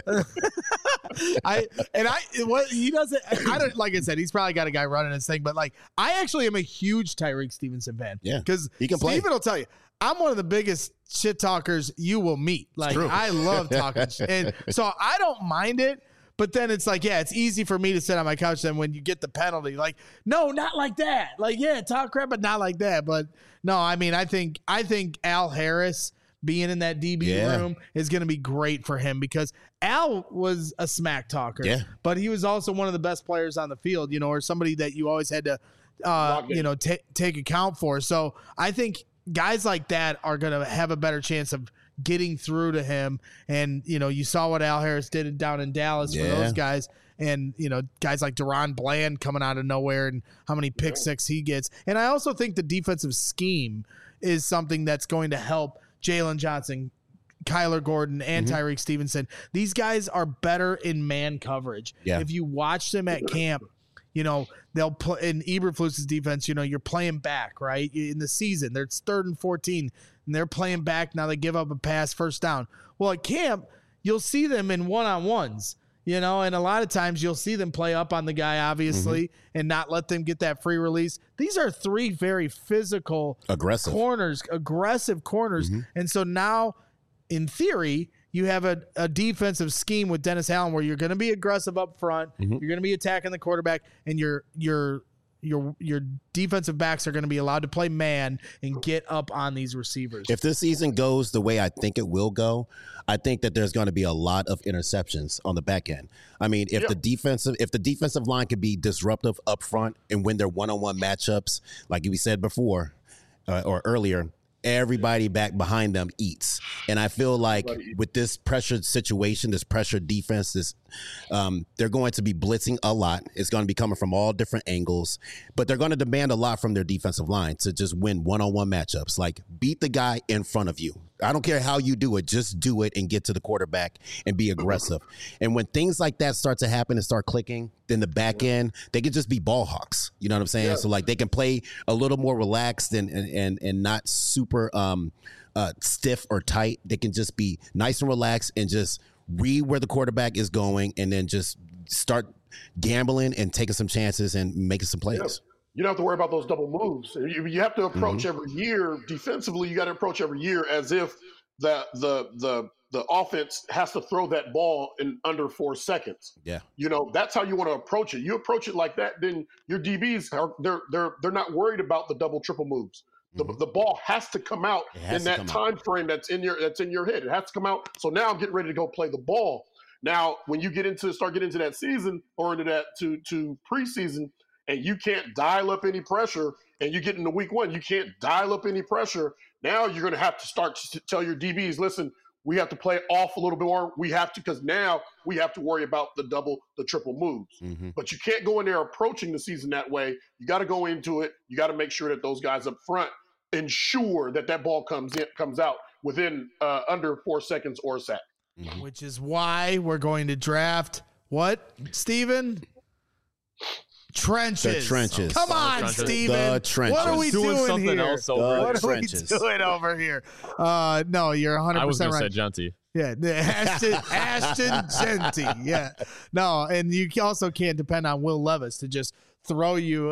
I and I what he doesn't I don't like I said, he's probably got a guy running his thing, but like I actually am a huge Tyreek Stevenson fan. Yeah, Because he can play. Steven will tell you, I'm one of the biggest shit talkers you will meet. Like true. I love talking shit. And so I don't mind it. But then it's like, yeah, it's easy for me to sit on my couch. Then when you get the penalty, like, no, not like that. Like, yeah, talk crap, but not like that. But no, I mean, I think I think Al Harris being in that D B Yeah. room is going to be great for him because Al was a smack talker. Yeah. But he was also one of the best players on the field, you know, or somebody that you always had to, uh, Lock in. you know, ta- take account for. So I think guys like that are going to have a better chance of getting through to him. And, you know, you saw what Al Harris did down in Dallas for Yeah. those guys. And, you know, guys like Deron Bland coming out of nowhere and how many pick six he gets. And I also think the defensive scheme is something that's going to help Jalen Johnson, Kyler Gordon, and Mm-hmm. Tyreek Stevenson. These guys are better in man coverage. Yeah. If you watch them at camp, you know, they'll play in Eberflus's defense, you know, you're playing back, right? In the season, they're third and fourteen, and they're playing back. Now they give up a pass, first down. Well, at camp, you'll see them in one-on-ones, you know, and a lot of times you'll see them play up on the guy, obviously, Mm-hmm. and not let them get that free release. These are three very physical Aggressive. corners, aggressive corners. Mm-hmm. And so now, in theory, you have a, a defensive scheme with Dennis Allen where you're going to be aggressive up front, Mm-hmm. you're going to be attacking the quarterback, and your your your your defensive backs are going to be allowed to play man and get up on these receivers. If this season goes the way I think it will go, I think that there's going to be a lot of interceptions on the back end. I mean, if Yeah. the defensive if the defensive line could be disruptive up front and win their one-on-one matchups, like we said before uh, or earlier, everybody back behind them eats. And I feel like with this pressured situation, this pressured defense, this um, they're going to be blitzing a lot. It's going to be coming from all different angles, but they're going to demand a lot from their defensive line to just win one-on-one matchups. Like beat the guy in front of you. I don't care how you do it. Just do it and get to the quarterback and be aggressive. And when things like that start to happen and start clicking, then the back end, they can just be ball hawks. You know what I'm saying? Yeah. So like they can play a little more relaxed and and and, and not super um, uh, stiff or tight. They can just be nice and relaxed and just read where the quarterback is going and then just start gambling and taking some chances and making some plays. Yeah. You don't have to worry about those double moves. You, you have to approach Mm-hmm. every year defensively. You got to approach every year as if the the the the offense has to throw that ball in under four seconds. Yeah. You know, that's how you want to approach it. You approach it like that, then your D Bs are they're they're they're not worried about the double triple moves. The, Mhm. the ball has to come out It has in to that come time out. frame that's in your that's in your head. It has to come out. So now I'm getting ready to go play the ball. Now, when you get into start getting into that season or into that to to preseason, and you can't dial up any pressure, and you get into week one, you can't dial up any pressure. Now you're going to have to start to tell your D Bs, listen, we have to play off a little bit more. We have to, because now we have to worry about the double, the triple moves. Mm-hmm. But you can't go in there approaching the season that way. You got to go into it. You got to make sure that those guys up front ensure that that ball comes in, comes out within uh, under four seconds or a sack. Mm-hmm. Which is why we're going to draft what, Steven? Trenches. The trenches. Come on, Trenches. Steven. The trenches. What are we doing, doing something here? else over The here. What are trenches. we doing over here? Uh, no, you're one hundred I was percent going to right. say Genty. Yeah, the Ashton, Ashton Genty. Yeah, no, and you also can't depend on Will Levis to just throw you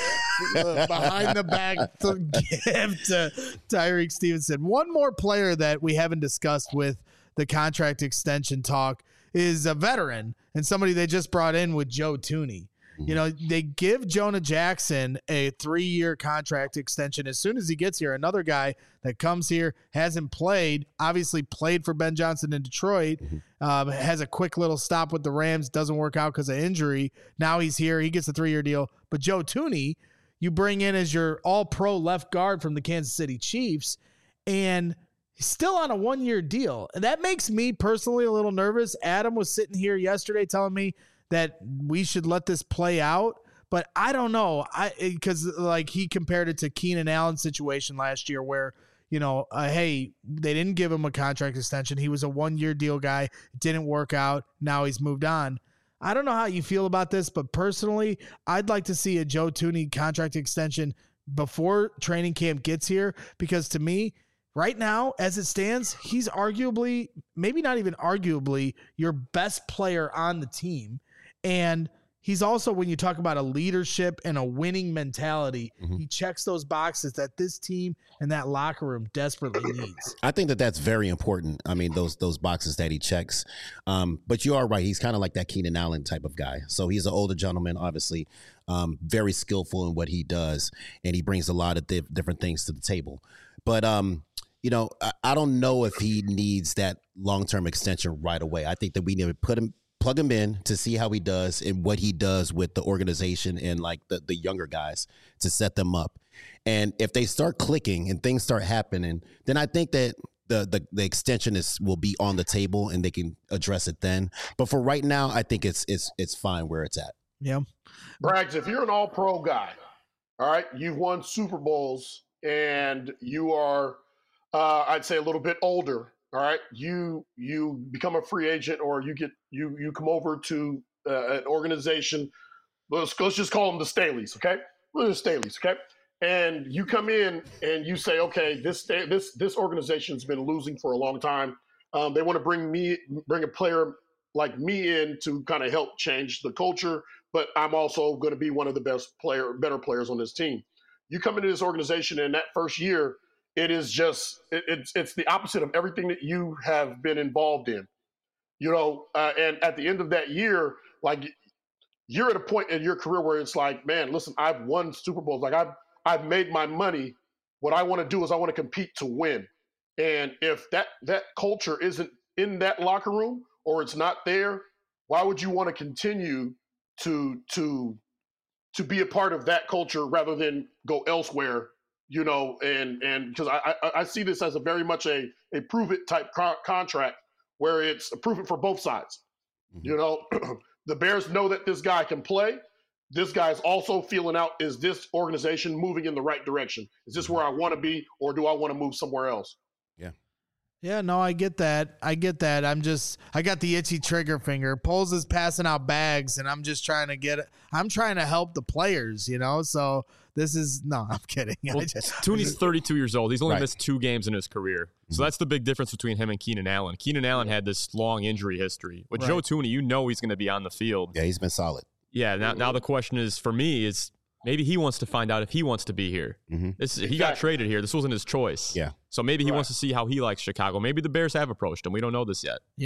behind the back to give to Tyreek Stevenson. One more player that we haven't discussed with the contract extension talk is a veteran and somebody they just brought in with Joe Thuney. You know, they give Jonah Jackson a three-year contract extension as soon as he gets here. Another guy that comes here, hasn't played, obviously played for Ben Johnson in Detroit, um, has a quick little stop with the Rams, doesn't work out because of injury. Now he's here. He gets a three-year deal. But Joe Thuney, you bring in as your all-pro left guard from the Kansas City Chiefs, and he's still on a one-year deal. And that makes me personally a little nervous. Adam was sitting here yesterday telling me that we should let this play out, but I don't know. I because like he compared it to Keenan Allen's situation last year, where you know, uh, hey, they didn't give him a contract extension. He was a one-year deal guy. It didn't work out. Now he's moved on. I don't know how you feel about this, but personally, I'd like to see a Joe Thuney contract extension before training camp gets here, because to me, right now, as it stands, he's arguably, maybe not even arguably, your best player on the team. And he's also, when you talk about a leadership and a winning mentality, Mm-hmm. he checks those boxes that this team and that locker room desperately needs. I think that that's very important. I mean, those those boxes that he checks. Um, but you are right. He's kind of like that Keenan Allen type of guy. So he's an older gentleman, obviously, um, very skillful in what he does, and he brings a lot of diff- different things to the table. But um, you know, I, I don't know if he needs that long-term extension right away. I think that we need to put him. Plug him in to see how he does and what he does with the organization and like the, the younger guys to set them up. And if they start clicking and things start happening, then I think that the, the, the extension is will be on the table and they can address it then. But for right now, I think it's it's it's fine where it's at. Yeah. Braggs, if you're an all-pro guy, all right, you've won Super Bowls and you are, uh, I'd say, a little bit older. All right, you you become a free agent, or you get you you come over to uh, an organization. Let's let's just call them the Staleys, okay? We're the Staleys, okay? And you come in and you say, okay, this this this organization's been losing for a long time. Um, they want to bring me bring a player like me in to kind of help change the culture, but I'm also going to be one of the best player, better players on this team. You come into this organization, and that first year, it is just it, it's it's the opposite of everything that you have been involved in, you know. Uh, and at the end of that year, like you're at a point in your career where it's like, man, listen, I've won Super Bowls. Like I've I've made my money. What I want to do is I want to compete to win. And if that that culture isn't in that locker room or it's not there, why would you want to continue to to to be a part of that culture rather than go elsewhere? You know, and and because I, I I see this as a very much a a prove it type co- contract where it's a prove it for both sides. Mm-hmm. You know, the Bears know that this guy can play. This guy's also feeling out, is this organization moving in the right direction? Is this where I want to be, or do I want to move somewhere else? Yeah. Yeah, no, I get that. I get that. I'm just, I got the itchy trigger finger. Poles is passing out bags, and I'm just trying to get it. I'm trying to help the players, you know? So this is, no, I'm kidding. Well, I just, Thuney's thirty-two years old. He's only Right. missed two games in his career. So that's the big difference between him and Keenan Allen. Keenan Allen had this long injury history. With Right. Joe Thuney, you know he's going to be on the field. Yeah, he's been solid. Yeah, now, now the question is, for me, is maybe he wants to find out if he wants to be here. Mm-hmm. This He got traded here. This wasn't his choice. Yeah. So maybe he Right. wants to see how he likes Chicago. Maybe the Bears have approached him. We don't know this yet. yeah. Yeah.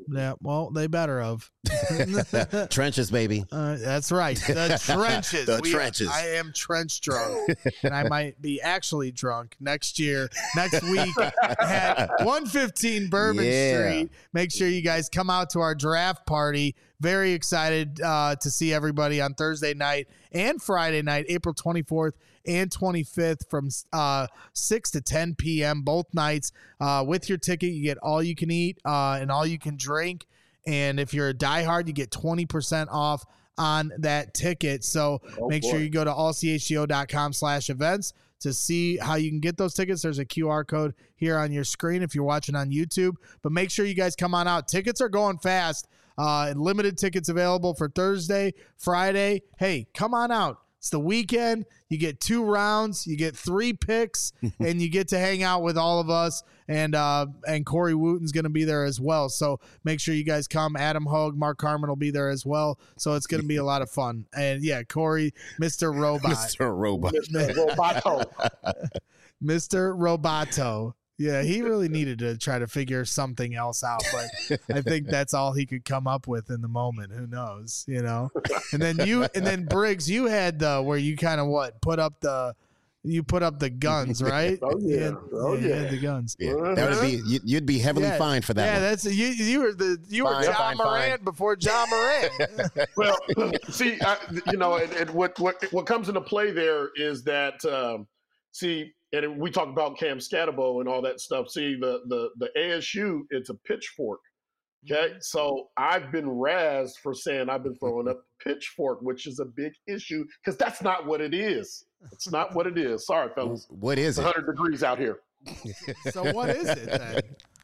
Yeah, well, they better have. Trenches, baby. Uh, that's right. The trenches. The We- trenches. I am trench drunk, and I might be actually drunk next year, next week at one fifteen Bourbon Yeah. Street. Make sure you guys come out to our draft party. Very excited uh, to see everybody on Thursday night and Friday night, April twenty-fourth and twenty-fifth from uh, six to ten p.m. both nights. Uh, with your ticket, you get all you can eat uh, and all you can drink. And if you're a diehard, you get twenty percent off on that ticket. So Oh, make boy. sure you go to all c h g o dot com slash events to see how you can get those tickets. There's a Q R code here on your screen if you're watching on YouTube. But make sure you guys come on out. Tickets are going fast. Uh, limited tickets available for Thursday, Friday. Hey, come on out. It's the weekend. You get two rounds, you get three picks, and you get to hang out with all of us. And uh, and Corey Wooten's going to be there as well. So make sure you guys come. Adam Hogue, Mark Carmen will be there as well. So it's going to be a lot of fun. And yeah, Corey, Mister Robot. Mister Robot. Mister Roboto. Mister Roboto. Yeah, he really needed to try to figure something else out, but I think that's all he could come up with in the moment. Who knows, you know? And then you, and then Briggs, you had the where you kind of what put up the, you put up the guns, right? Oh, You yeah. had- Oh, you yeah. had the guns. Yeah, that would be you, you'd be heavily Yeah. fined for that Yeah, one. that's you. You were the you were Fine, John fine, Moran fine. before John Moran. Well, see, I, you know, and, and what what what comes into play there is that um, see, and we talk about Cam Scatterbo and all that stuff. See, the the the A S U, it's a pitchfork. Okay, so I've been razzed for saying I've been throwing up pitchfork, which is a big issue because that's not what it is. It's not what it is. Sorry, fellas. What is It's it? one hundred degrees out here. So what is it then?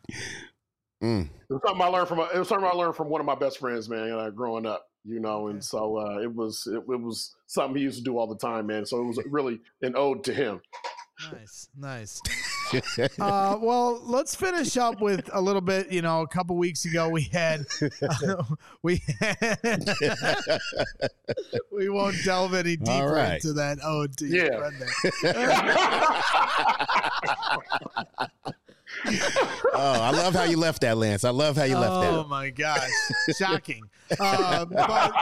Mm. It was something I learned from. A, it was something I learned from one of my best friends, man. Uh, growing up, you know, and so uh, it was it, it was something he used to do all the time, man. So it was really an ode to him. Nice, nice. Uh, well, let's finish up with a little bit. You know, a couple weeks ago we had uh, we had, we won't delve any deeper right. into that ode to your Yeah. friend there. Oh, I love how you left that, Lance. I love how you left Oh that. my gosh, shocking! Uh, but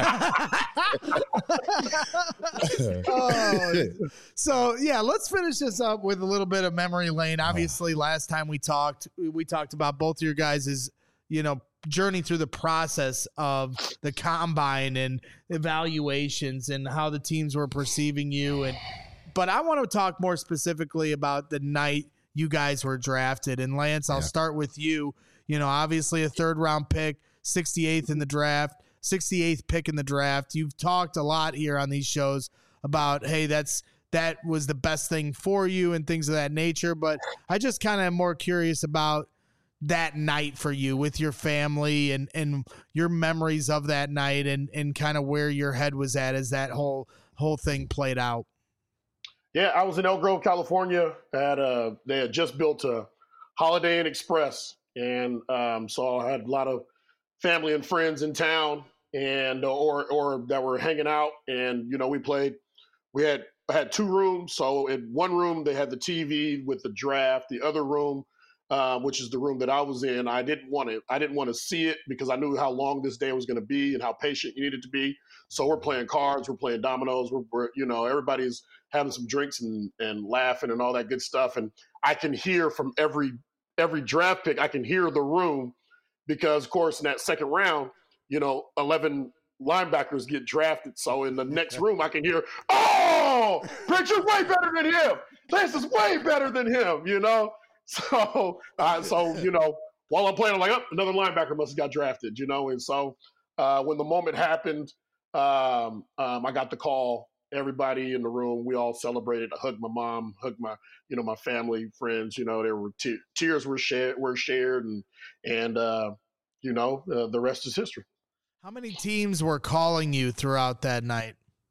oh, so yeah, let's finish this up with a little bit of memory lane. Obviously, last time we talked, we talked about both of your guys' you know journey through the process of the combine and evaluations and how the teams were perceiving you. And but I want to talk more specifically about the night you guys were drafted. And Lance, I'll Yeah. start with you. You know, obviously a third round pick, sixty-eighth in the draft, sixty-eighth pick in the draft. You've talked a lot here on these shows about, hey, that's that was the best thing for you and things of that nature. But I just kind of am more curious about that night for you with your family and, and your memories of that night and, and kind of where your head was at as that whole whole thing played out. Yeah, I was in Elk Grove, California. At uh, they had just built a Holiday Inn Express, and um, so I had a lot of family and friends in town, and or or that were hanging out. And you know, we played. We had I had two rooms. So in one room they had the T V with the draft. The other room, uh, which is the room that I was in, I didn't want to. I didn't want to see it because I knew how long this day was going to be and how patient you needed to be. So we're playing cards, we're playing dominoes, we're, we're you know everybody's having some drinks and, and laughing and all that good stuff. And I can hear from every every draft pick, I can hear the room because, of course, in that second round, you know, eleven linebackers get drafted. So in the next room, I can hear, oh, Briggs is way better than him. This is way better than him, you know? So, uh, so you know, while I'm playing, I'm like, oh, another linebacker must have got drafted, you know? And so uh, when the moment happened, um, um, I got the call. Everybody in the room, we all celebrated. I hugged my mom, hugged my, you know, my family, friends. You know, there were te- tears were shared, were shared, and and uh, you know, uh, the rest is history. How many teams were calling you throughout that night?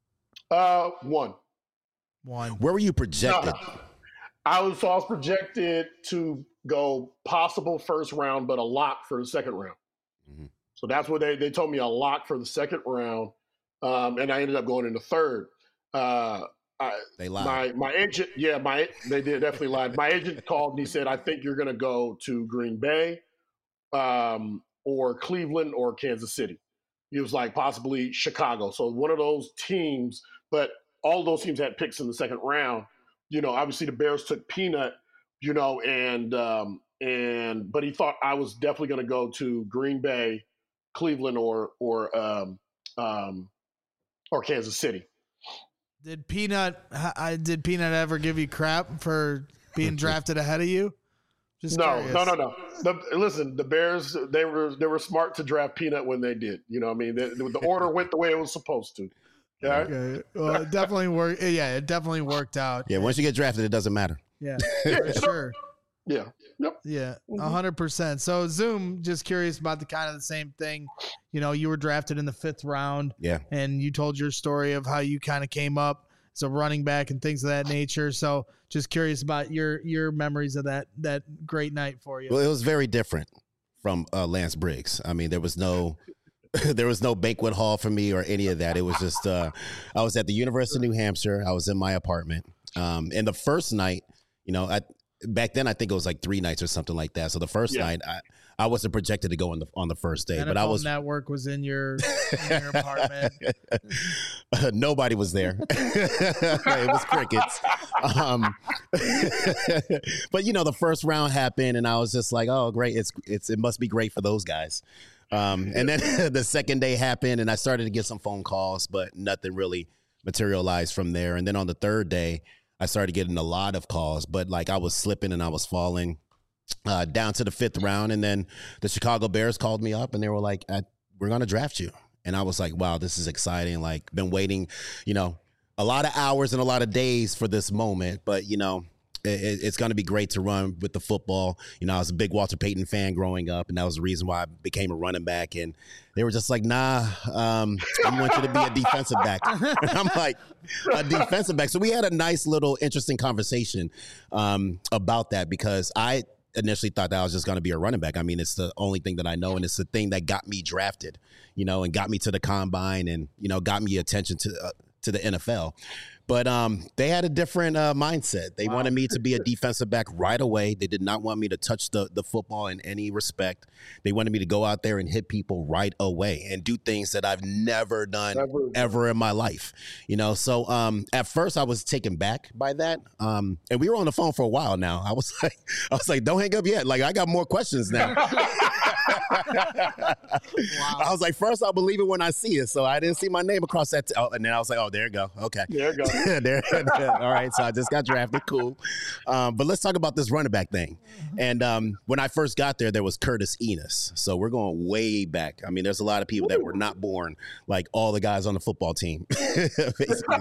Uh, one. One. Where were you projected? No, I was so I was projected to go possible first round, but a lock for the second round. Mhm. So that's what they they told me, a lock for the second round, um, and I ended up going into third. Uh, I, They lied. my my agent, yeah, my they did definitely lied. My agent called and he said, "I think you're going to go to Green Bay, um, or Cleveland or Kansas City. He was like possibly Chicago. So one of those teams, but all those teams had picks in the second round. You know, obviously the Bears took Peanut, you know, and um, and but he thought I was definitely going to go to Green Bay, Cleveland, or or um, um, or Kansas City. Did Peanut I did Peanut ever give you crap for being drafted ahead of you? Just no, curious. no, no, no, the, listen, the Bears, they were they were smart to draft Peanut when they did. You know what I mean? The, the order went the way it was supposed to. Yeah. Okay. Well, it definitely worked. Yeah, it definitely worked out. Yeah, once you get drafted, it doesn't matter. Yeah, for sure. Yeah. Yep. Yeah, a hundred percent. So Zoom, just curious about the kind of the same thing. You know, you were drafted in the fifth round. Yeah. And you told your story of how you kind of came up as a running back and things of that nature. So just curious about your your memories of that that great night for you. Well, it was very different from uh, Lance Briggs. I mean, there was no there was no banquet hall for me or any of that. It was just uh, I was at the University of New Hampshire. I was in my apartment. Um, and the first night, you know, I, back then I think it was like three nights or something like that. So the first yeah. night, I, I wasn't projected to go on the on the first day, N F L but I was. Network was in your in your apartment. Uh, nobody was there. It was crickets. Um, but you know, the first round happened, and I was just like, "Oh, great! It's it's it must be great for those guys." Um, and then the second day happened, and I started to get some phone calls, but nothing really materialized from there. And then on the third day, I started getting a lot of calls, but like I was slipping and I was falling. Uh, down to the fifth round, and then the Chicago Bears called me up, and they were like, I, "We're going to draft you." And I was like, "Wow, this is exciting!" Like, been waiting, you know, a lot of hours and a lot of days for this moment. But you know, it, it's going to be great to run with the football. You know, I was a big Walter Payton fan growing up, and that was the reason why I became a running back. And they were just like, "Nah, um, we want you to be a defensive back." And I'm like, "A defensive back." So we had a nice little interesting conversation um, about that because I initially thought that I was just going to be a running back. I mean, it's the only thing that I know, and it's the thing that got me drafted, you know, and got me to the combine, and you know, got me attention to uh, to the N F L. But um, they had a different uh, mindset. They wow. wanted me to be a defensive back right away. They did not want me to touch the, the football in any respect. They wanted me to go out there and hit people right away and do things that I've never done never. ever in my life. You know, so um, at first I was taken back by that. Um, and we were on the phone for a while now. I was like, I was like, don't hang up yet. Like, I got more questions now. Wow. I was like, first I'll believe it when I see it. So I didn't see my name across that. T- oh, and then I was like, oh, there you go. Okay. There you go. there, there. All right. So I just got drafted. Cool. Um, but let's talk about this running back thing. And um, when I first got there, there was Curtis Enos. So we're going way back. I mean, there's a lot of people that were not born like all the guys on the football team, basically.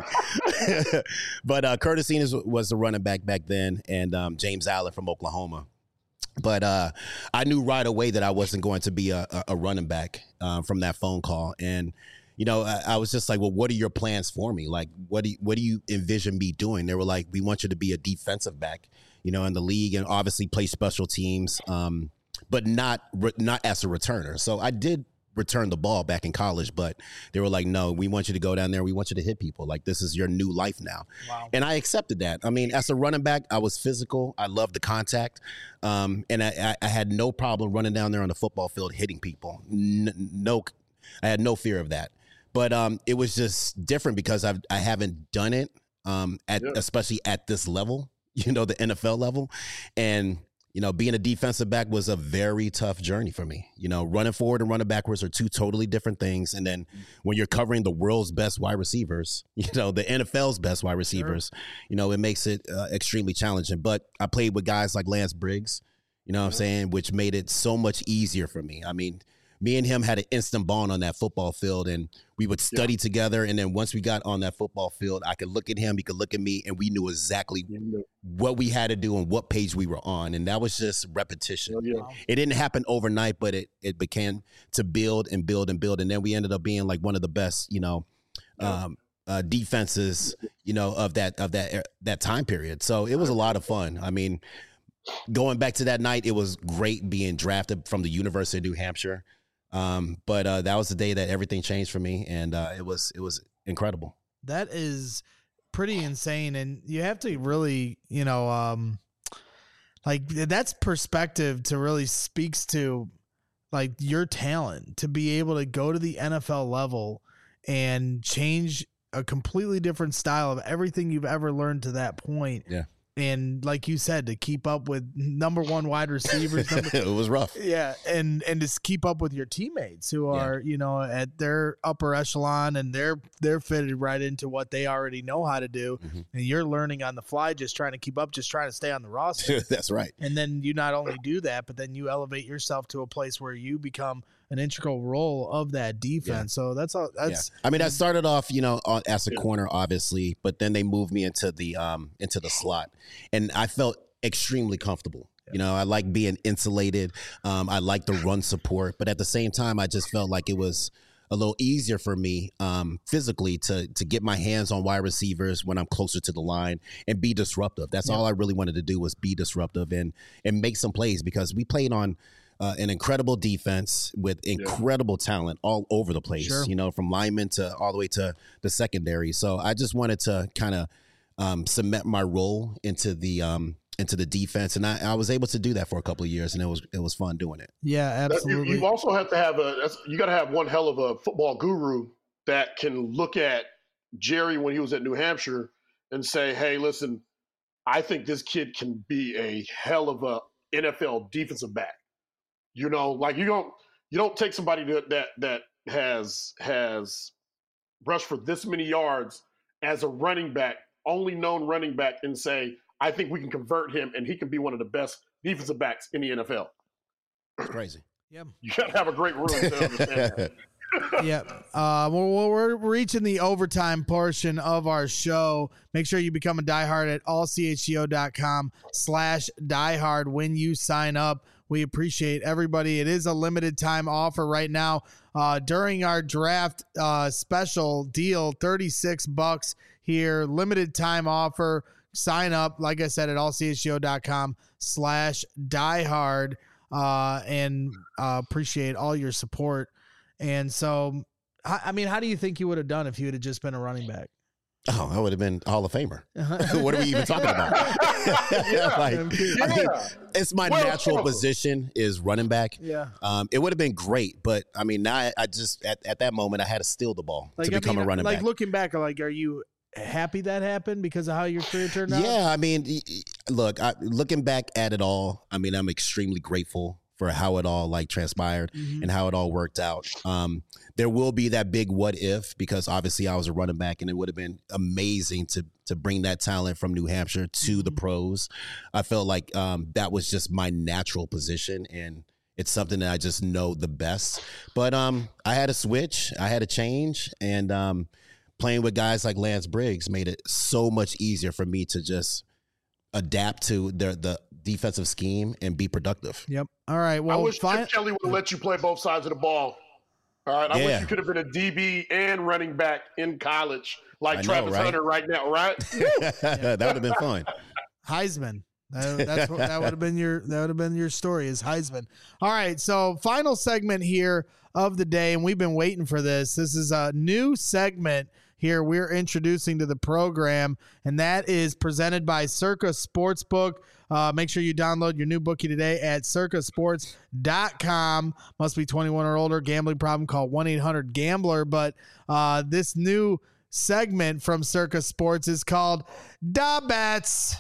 But uh, Curtis Enos was the running back back then, and um, James Allen from Oklahoma. But uh, I knew right away that I wasn't going to be a, a running back uh, from that phone call. And, you know, I, I was just like, well, what are your plans for me? Like, what do you, what do you envision me doing? They were like, we want you to be a defensive back, you know, in the league and obviously play special teams, um, but not not as a returner. So I did return the ball back in college, but they were like, no, we want you to go down there. We want you to hit people. Like, this is your new life now. Wow. And I accepted that. I mean, as a running back, I was physical. I loved the contact. Um, and I, I had no problem running down there on the football field, hitting people. N- no, I had no fear of that. But um, it was just different because I've, I haven't done it, um, at yeah. especially at this level, you know, the N F L level. And you know, being a defensive back was a very tough journey for me. You know, running forward and running backwards are two totally different things. And then when you're covering the world's best wide receivers, you know, the N F L's best wide receivers, sure. you know, it makes it uh, extremely challenging. But I played with guys like Lance Briggs, you know what I'm saying, which made it so much easier for me. I mean, me and him had an instant bond on that football field, and we would study yeah. together. And then once we got on that football field, I could look at him, he could look at me, and we knew exactly yeah. what we had to do and what page we were on. And that was just repetition. Yeah. It didn't happen overnight, but it it began to build and build and build. And then we ended up being like one of the best, you know, yeah. um, uh, defenses, you know, of that of that that time period. So it was a lot of fun. I mean, going back to that night, it was great being drafted from the University of New Hampshire. Um, but uh, that was the day that everything changed for me, and uh, it was it was incredible. That is pretty insane, and you have to really, you know, um, like that's perspective to really speaks to like your talent to be able to go to the N F L level and change a completely different style of everything you've ever learned to that point. Yeah. And like you said, to keep up with number one wide receivers. Number, it was rough. Yeah. And, and just keep up with your teammates who are, yeah. you know, at their upper echelon, and they're, they're fitted right into what they already know how to do. Mm-hmm. And you're learning on the fly, just trying to keep up, just trying to stay on the roster. That's right. And then you not only do that, but then you elevate yourself to a place where you become an integral role of that defense. Yeah. So that's all. That's. Yeah. I mean, I started off, you know, on, as a corner, obviously, but then they moved me into the um into the slot, and I felt extremely comfortable. Yeah. You know, I like being insulated. Um, I like the run support, but at the same time, I just felt like it was a little easier for me um, physically to to get my hands on wide receivers when I'm closer to the line and be disruptive. That's yeah. all I really wanted to do, was be disruptive and and make some plays, because we played on Uh, an incredible defense with incredible yeah. talent all over the place, sure. you know, from linemen to all the way to the secondary. So I just wanted to kind of um, cement my role into the um, into the defense, and I, I was able to do that for a couple of years, and it was it was fun doing it. Yeah, absolutely. You, you also have to have a you got to have one hell of a football guru that can look at Jerry when he was at New Hampshire and say, "Hey, listen, I think this kid can be a hell of a N F L defensive back." You know, like you don't you don't take somebody that that, that has has rushed for this many yards as a running back, only known running back, and say, I think we can convert him and he can be one of the best defensive backs in the N F L. It's crazy. Yeah, you got to have a great room to understand that. Yeah. Uh, well, we're reaching the overtime portion of our show. Make sure you become a diehard at allchgo.com slash diehard when you sign up. We appreciate everybody. It is a limited time offer right now. Uh, during our draft uh, special deal, thirty-six bucks here, limited time offer. Sign up, like I said, at allchgo.com slash diehard, uh, and uh, appreciate all your support. And so, I mean, how do you think you would have done if you had just been a running back? Oh, I would have been Hall of Famer. What are we even talking about? yeah, like, yeah. I mean, it's my well, natural well. position is running back. Yeah. Um, it would have been great, but I mean, now I, I just at, at that moment I had to steal the ball like, to become I mean, a running like back. Like looking back, like, are you happy that happened because of how your career turned out? Yeah, I mean, look, I, looking back at it all, I mean, I'm extremely grateful for how it all like transpired mm-hmm. and how it all worked out. Um, there will be that big what if, because obviously I was a running back, and it would have been amazing to to bring that talent from New Hampshire to mm-hmm. the pros. I felt like um, that was just my natural position, and it's something that I just know the best. But um, I had a switch, I had a change, and um, playing with guys like Lance Briggs made it so much easier for me to just adapt to the the defensive scheme and be productive. Yep. All right. Well, I wish fine. Chip Kelly would have let you play both sides of the ball. All right. I yeah. wish you could have been a D B and running back in college like I Travis know, right? Hunter right now, right? That would have been fun. Heisman. That, that's what, that would have been your that would have been your story is Heisman. All right. So final segment here of the day, and we've been waiting for this. This is a new segment here we're introducing to the program, and that is presented by Circa Sportsbook. Uh, make sure you download your new bookie today at circa sports dot com. Must be twenty-one or older. Gambling problem, call one eight hundred gambler. But uh, this new segment from Circa Sports is called Da Bets.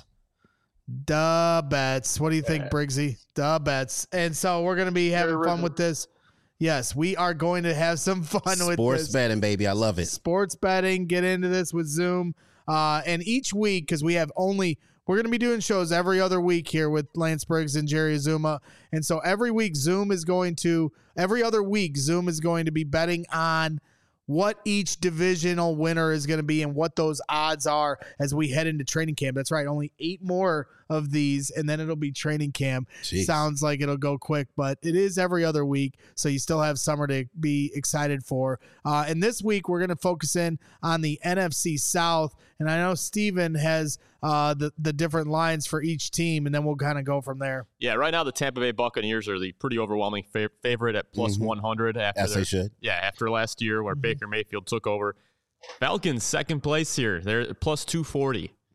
Da Bets. What do you think, Briggsy? Da Bets. And so we're going to be having fun with this. Yes, we are going to have some fun Sports with this. Sports betting, baby. I love it. Sports betting. Get into this with Zoom. Uh, and each week, because we have only, we're going to be doing shows every other week here with Lance Briggs and Jerry Azuma. And so every week, Zoom is going to, every other week, Zoom is going to be betting on what each divisional winner is going to be and what those odds are as we head into training camp. That's right. Only eight more of these, and then it'll be training camp. Jeez. Sounds like it'll go quick, but it is every other week, so you still have summer to be excited for. Uh, and this week, we're going to focus in on the N F C South, and I know Steven has uh, the, the different lines for each team, and then we'll kind of go from there. Yeah, right now the Tampa Bay Buccaneers are the pretty overwhelming fav- favorite at plus mm-hmm. one hundred. After As their, they should. Yeah, after last year where mm-hmm. Baker Mayfield took over. Falcons second place here. They're plus two forty.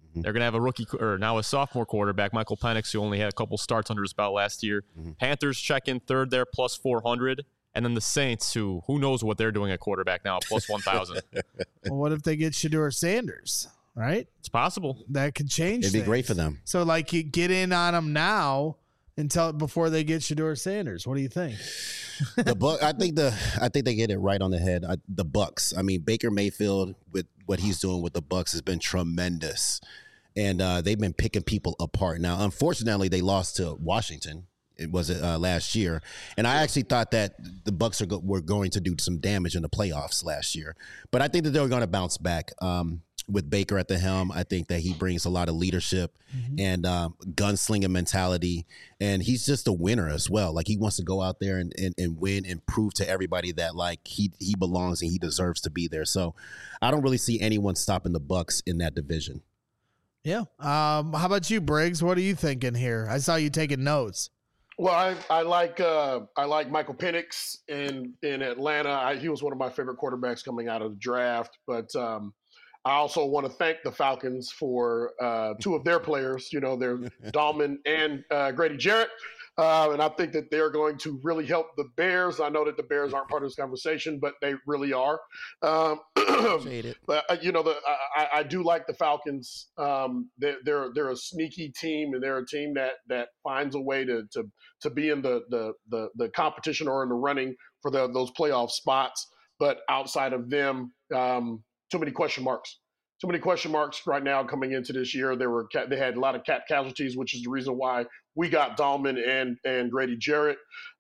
Mm-hmm. They're going to have a rookie or now a sophomore quarterback, Michael Penix, who only had a couple starts under his belt last year. Mm-hmm. Panthers check in third there, plus four hundred. And then the Saints, who who knows what they're doing at quarterback now, plus one thousand. Well, what if they get Shedeur Sanders, right? It's possible. That could change It'd things. be great for them. So, like, you get in on them now until before they get Shedeur Sanders. What do you think? The Buck, I think the I think they get it right on the head. I, the Bucks. I mean, Baker Mayfield with what he's doing with the Bucks has been tremendous, and uh, they've been picking people apart. Now, unfortunately, they lost to Washington. It was uh, last year, and I actually thought that the Bucks are go- were going to do some damage in the playoffs last year. But I think that they're going to bounce back um, with Baker at the helm. I think that he brings a lot of leadership mm-hmm. and um, gunslinging mentality, and he's just a winner as well. Like, he wants to go out there and, and, and win and prove to everybody that like he he belongs and he deserves to be there. So I don't really see anyone stopping the Bucks in that division. Yeah. Um, how about you, Briggs? What are you thinking here? I saw you taking notes. Well, I, I like uh, I like Michael Penix in in Atlanta. I, he was one of my favorite quarterbacks coming out of the draft. But um, I also want to thank the Falcons for uh, two of their players. You know, they're Dahlman and uh, Grady Jarrett. Uh, and I think that they're going to really help the Bears. I know that the Bears aren't part of this conversation, but they really are. Um, but uh, you know, the, I, I do like the Falcons. Um, they're, they're they're a sneaky team, and they're a team that that finds a way to to to be in the the the, the competition or in the running for the, those playoff spots. But outside of them, um, too many question marks. Too many question marks right now coming into this year. There were they had a lot of cap casualties, which is the reason why we got Dahlman and and Grady Jarrett.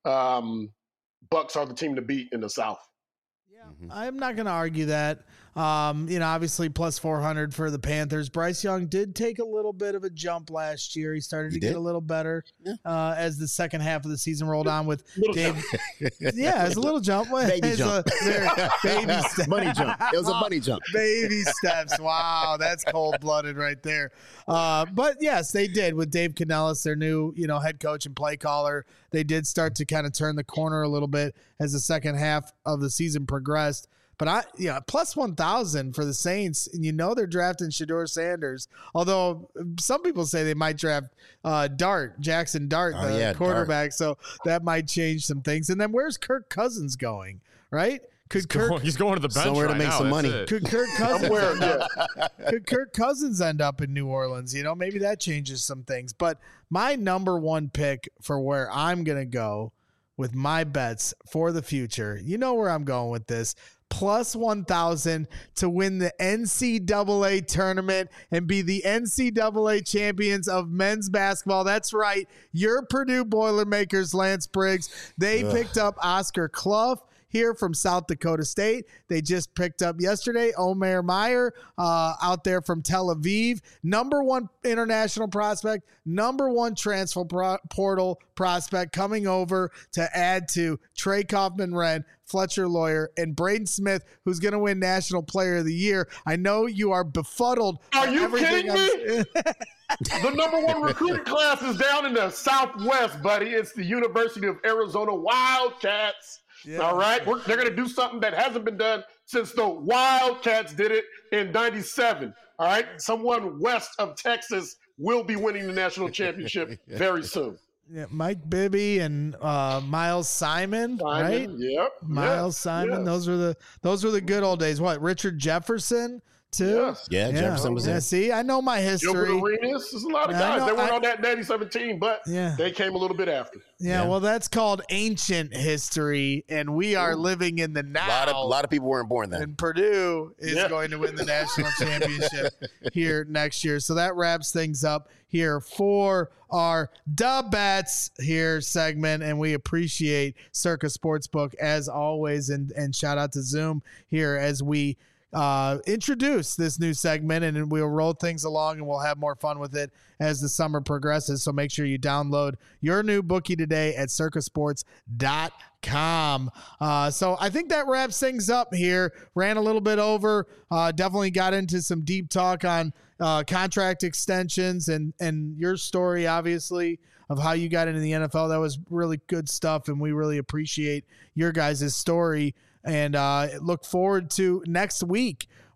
Um, Bucks are the team to beat in the South. Yeah, mm-hmm. I'm not going to argue that. Um, you know, obviously plus four hundred for the Panthers. Bryce Young did take a little bit of a jump last year. He started he to did? get a little better yeah. uh, as the second half of the season rolled on with Dave. Jump. Yeah, it's a little jump. Baby it's jump. A, very, baby steps. Bunny jump. It was a bunny jump. Baby steps. Wow, that's cold-blooded right there. Uh, but, yes, they did with Dave Canellis, their new, you know, head coach and play caller. They did start to kind of turn the corner a little bit as the second half of the season progressed. But I, yeah, plus one thousand for the Saints, and you know they're drafting Shedeur Sanders. Although some people say they might draft uh, Dart, Jackson Dart, oh, the yeah, quarterback. Dart. So that might change some things. And then where's Kirk Cousins going? Right? Could he's Kirk going, he's going to the bench somewhere right to make now, some money? it. Could Kirk Cousins Where, end up, could Kirk Cousins end up in New Orleans? You know, maybe that changes some things. But my number one pick for where I'm gonna go with my bets for the future, you know where I'm going with this. Plus one thousand to win the N C double A tournament and be the N C double A champions of men's basketball. That's right. Your Purdue Boilermakers, Lance Briggs. They Ugh. picked up Oscar Clough here from South Dakota State. They just picked up yesterday Omer Meyer uh, out there from Tel Aviv. Number one international prospect, number one transfer pro- portal prospect coming over to add to Trey Kaufman-Renn, Fletcher Lawyer, and Braden Smith, who's going to win National Player of the Year. I know you are befuddled. Are you kidding me? The number one recruiting class is down in the Southwest, buddy. It's the University of Arizona Wildcats. Yeah. All right, We're, they're going to do something that hasn't been done since the Wildcats did it in ninety-seven. All right, someone west of Texas will be winning the national championship very soon. Yeah, Mike Bibby and uh, Miles Simon, Simon, right? Yep. Miles yes, Simon. Yes. Those were the those were the good old days. What? Richard Jefferson too. Yes. Yeah, yeah, Jefferson was yeah, there. See, I know my history. Gilbert Arenas. There's a lot of Yeah, guys. know, They weren't I, on that ninety-seven team, but yeah. they came a little bit after. Yeah, Yeah. well, that's called ancient history, and we are living in the now. A lot of a lot of people weren't born then. And Purdue is Yeah. going to win the national championship here next year. So that wraps things up here for our Da Bets here segment. And we appreciate Circa Sportsbook as always. And, and shout out to Zoom here as we uh, introduce this new segment, and we'll roll things along and we'll have more fun with it as the summer progresses. So make sure you download your new bookie today at circa sports dot com. Uh, so I think that wraps things up here. Ran a little bit over, uh, definitely got into some deep talk on uh, contract extensions and, and your story, obviously, of how you got into the N F L. That was really good stuff, and we really appreciate your guys' story. And uh, look forward to next week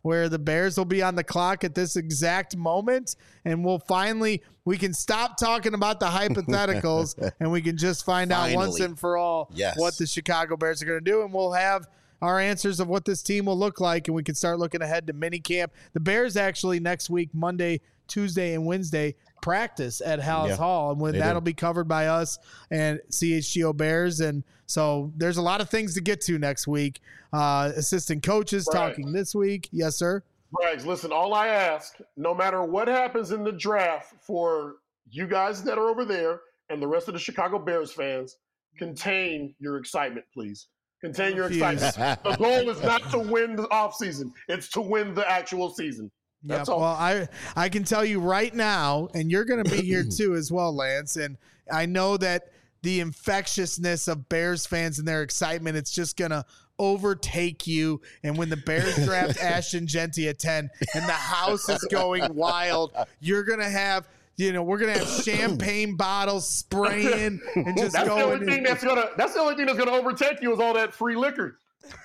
where the Bears will be on the clock at this exact moment, and we'll finally we can stop talking about the hypotheticals and we can just find Finally. out once and for all Yes. what the Chicago Bears are going to do, and we'll have our answers of what this team will look like, and we can start looking ahead to minicamp. The Bears actually next week, Monday, Tuesday, and Wednesday, practice at Hal's Yeah, Hall, and when they that'll do. be covered by us and C H G O Bears. And so there's a lot of things to get to next week. Uh, assistant coaches Right. talking this week. Yes, sir. Braggs, listen, all I ask, no matter what happens in the draft for you guys that are over there and the rest of the Chicago Bears fans, contain your excitement, please. Contain your Refuse. excitement. The goal is not to win the offseason. It's to win the actual season. That's Yeah, all. well, I I can tell you right now, and you're going to be here too as well, Lance. And I know that the infectiousness of Bears fans and their excitement, it's just going to overtake you. And when the Bears draft Ashton Genty at ten and the house is going wild, you're going to have, you know, we're going to have champagne bottles spraying and just That's the going. only thing that's gonna. That's the only thing that's gonna overtake you is all that free liquor.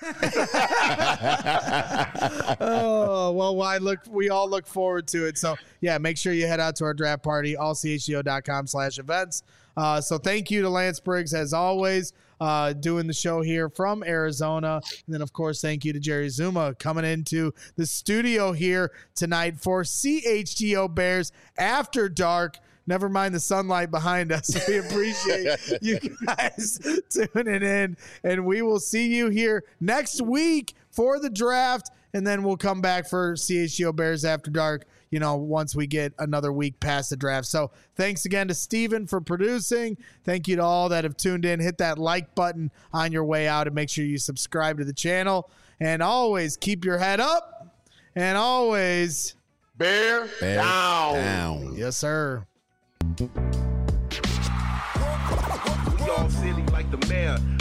Oh, well, I look, we all look forward to it. So yeah, make sure you head out to our draft party, all c h g o dot com slash events. Uh, so thank you to Lance Briggs as always, uh, doing the show here from Arizona. And then of course, thank you to Jerry Zuma coming into the studio here tonight for C H G O Bears After Dark. Never mind the sunlight behind us. We appreciate you guys tuning in, and we will see you here next week for the draft, and then we'll come back for C H G O Bears After Dark, you know, once we get another week past the draft. So thanks again to Steven for producing. Thank you to all that have tuned in. Hit that like button on your way out and make sure you subscribe to the channel. And always keep your head up, and always, Bear, Bear down. down. yes, sir. We all silly like the mayor.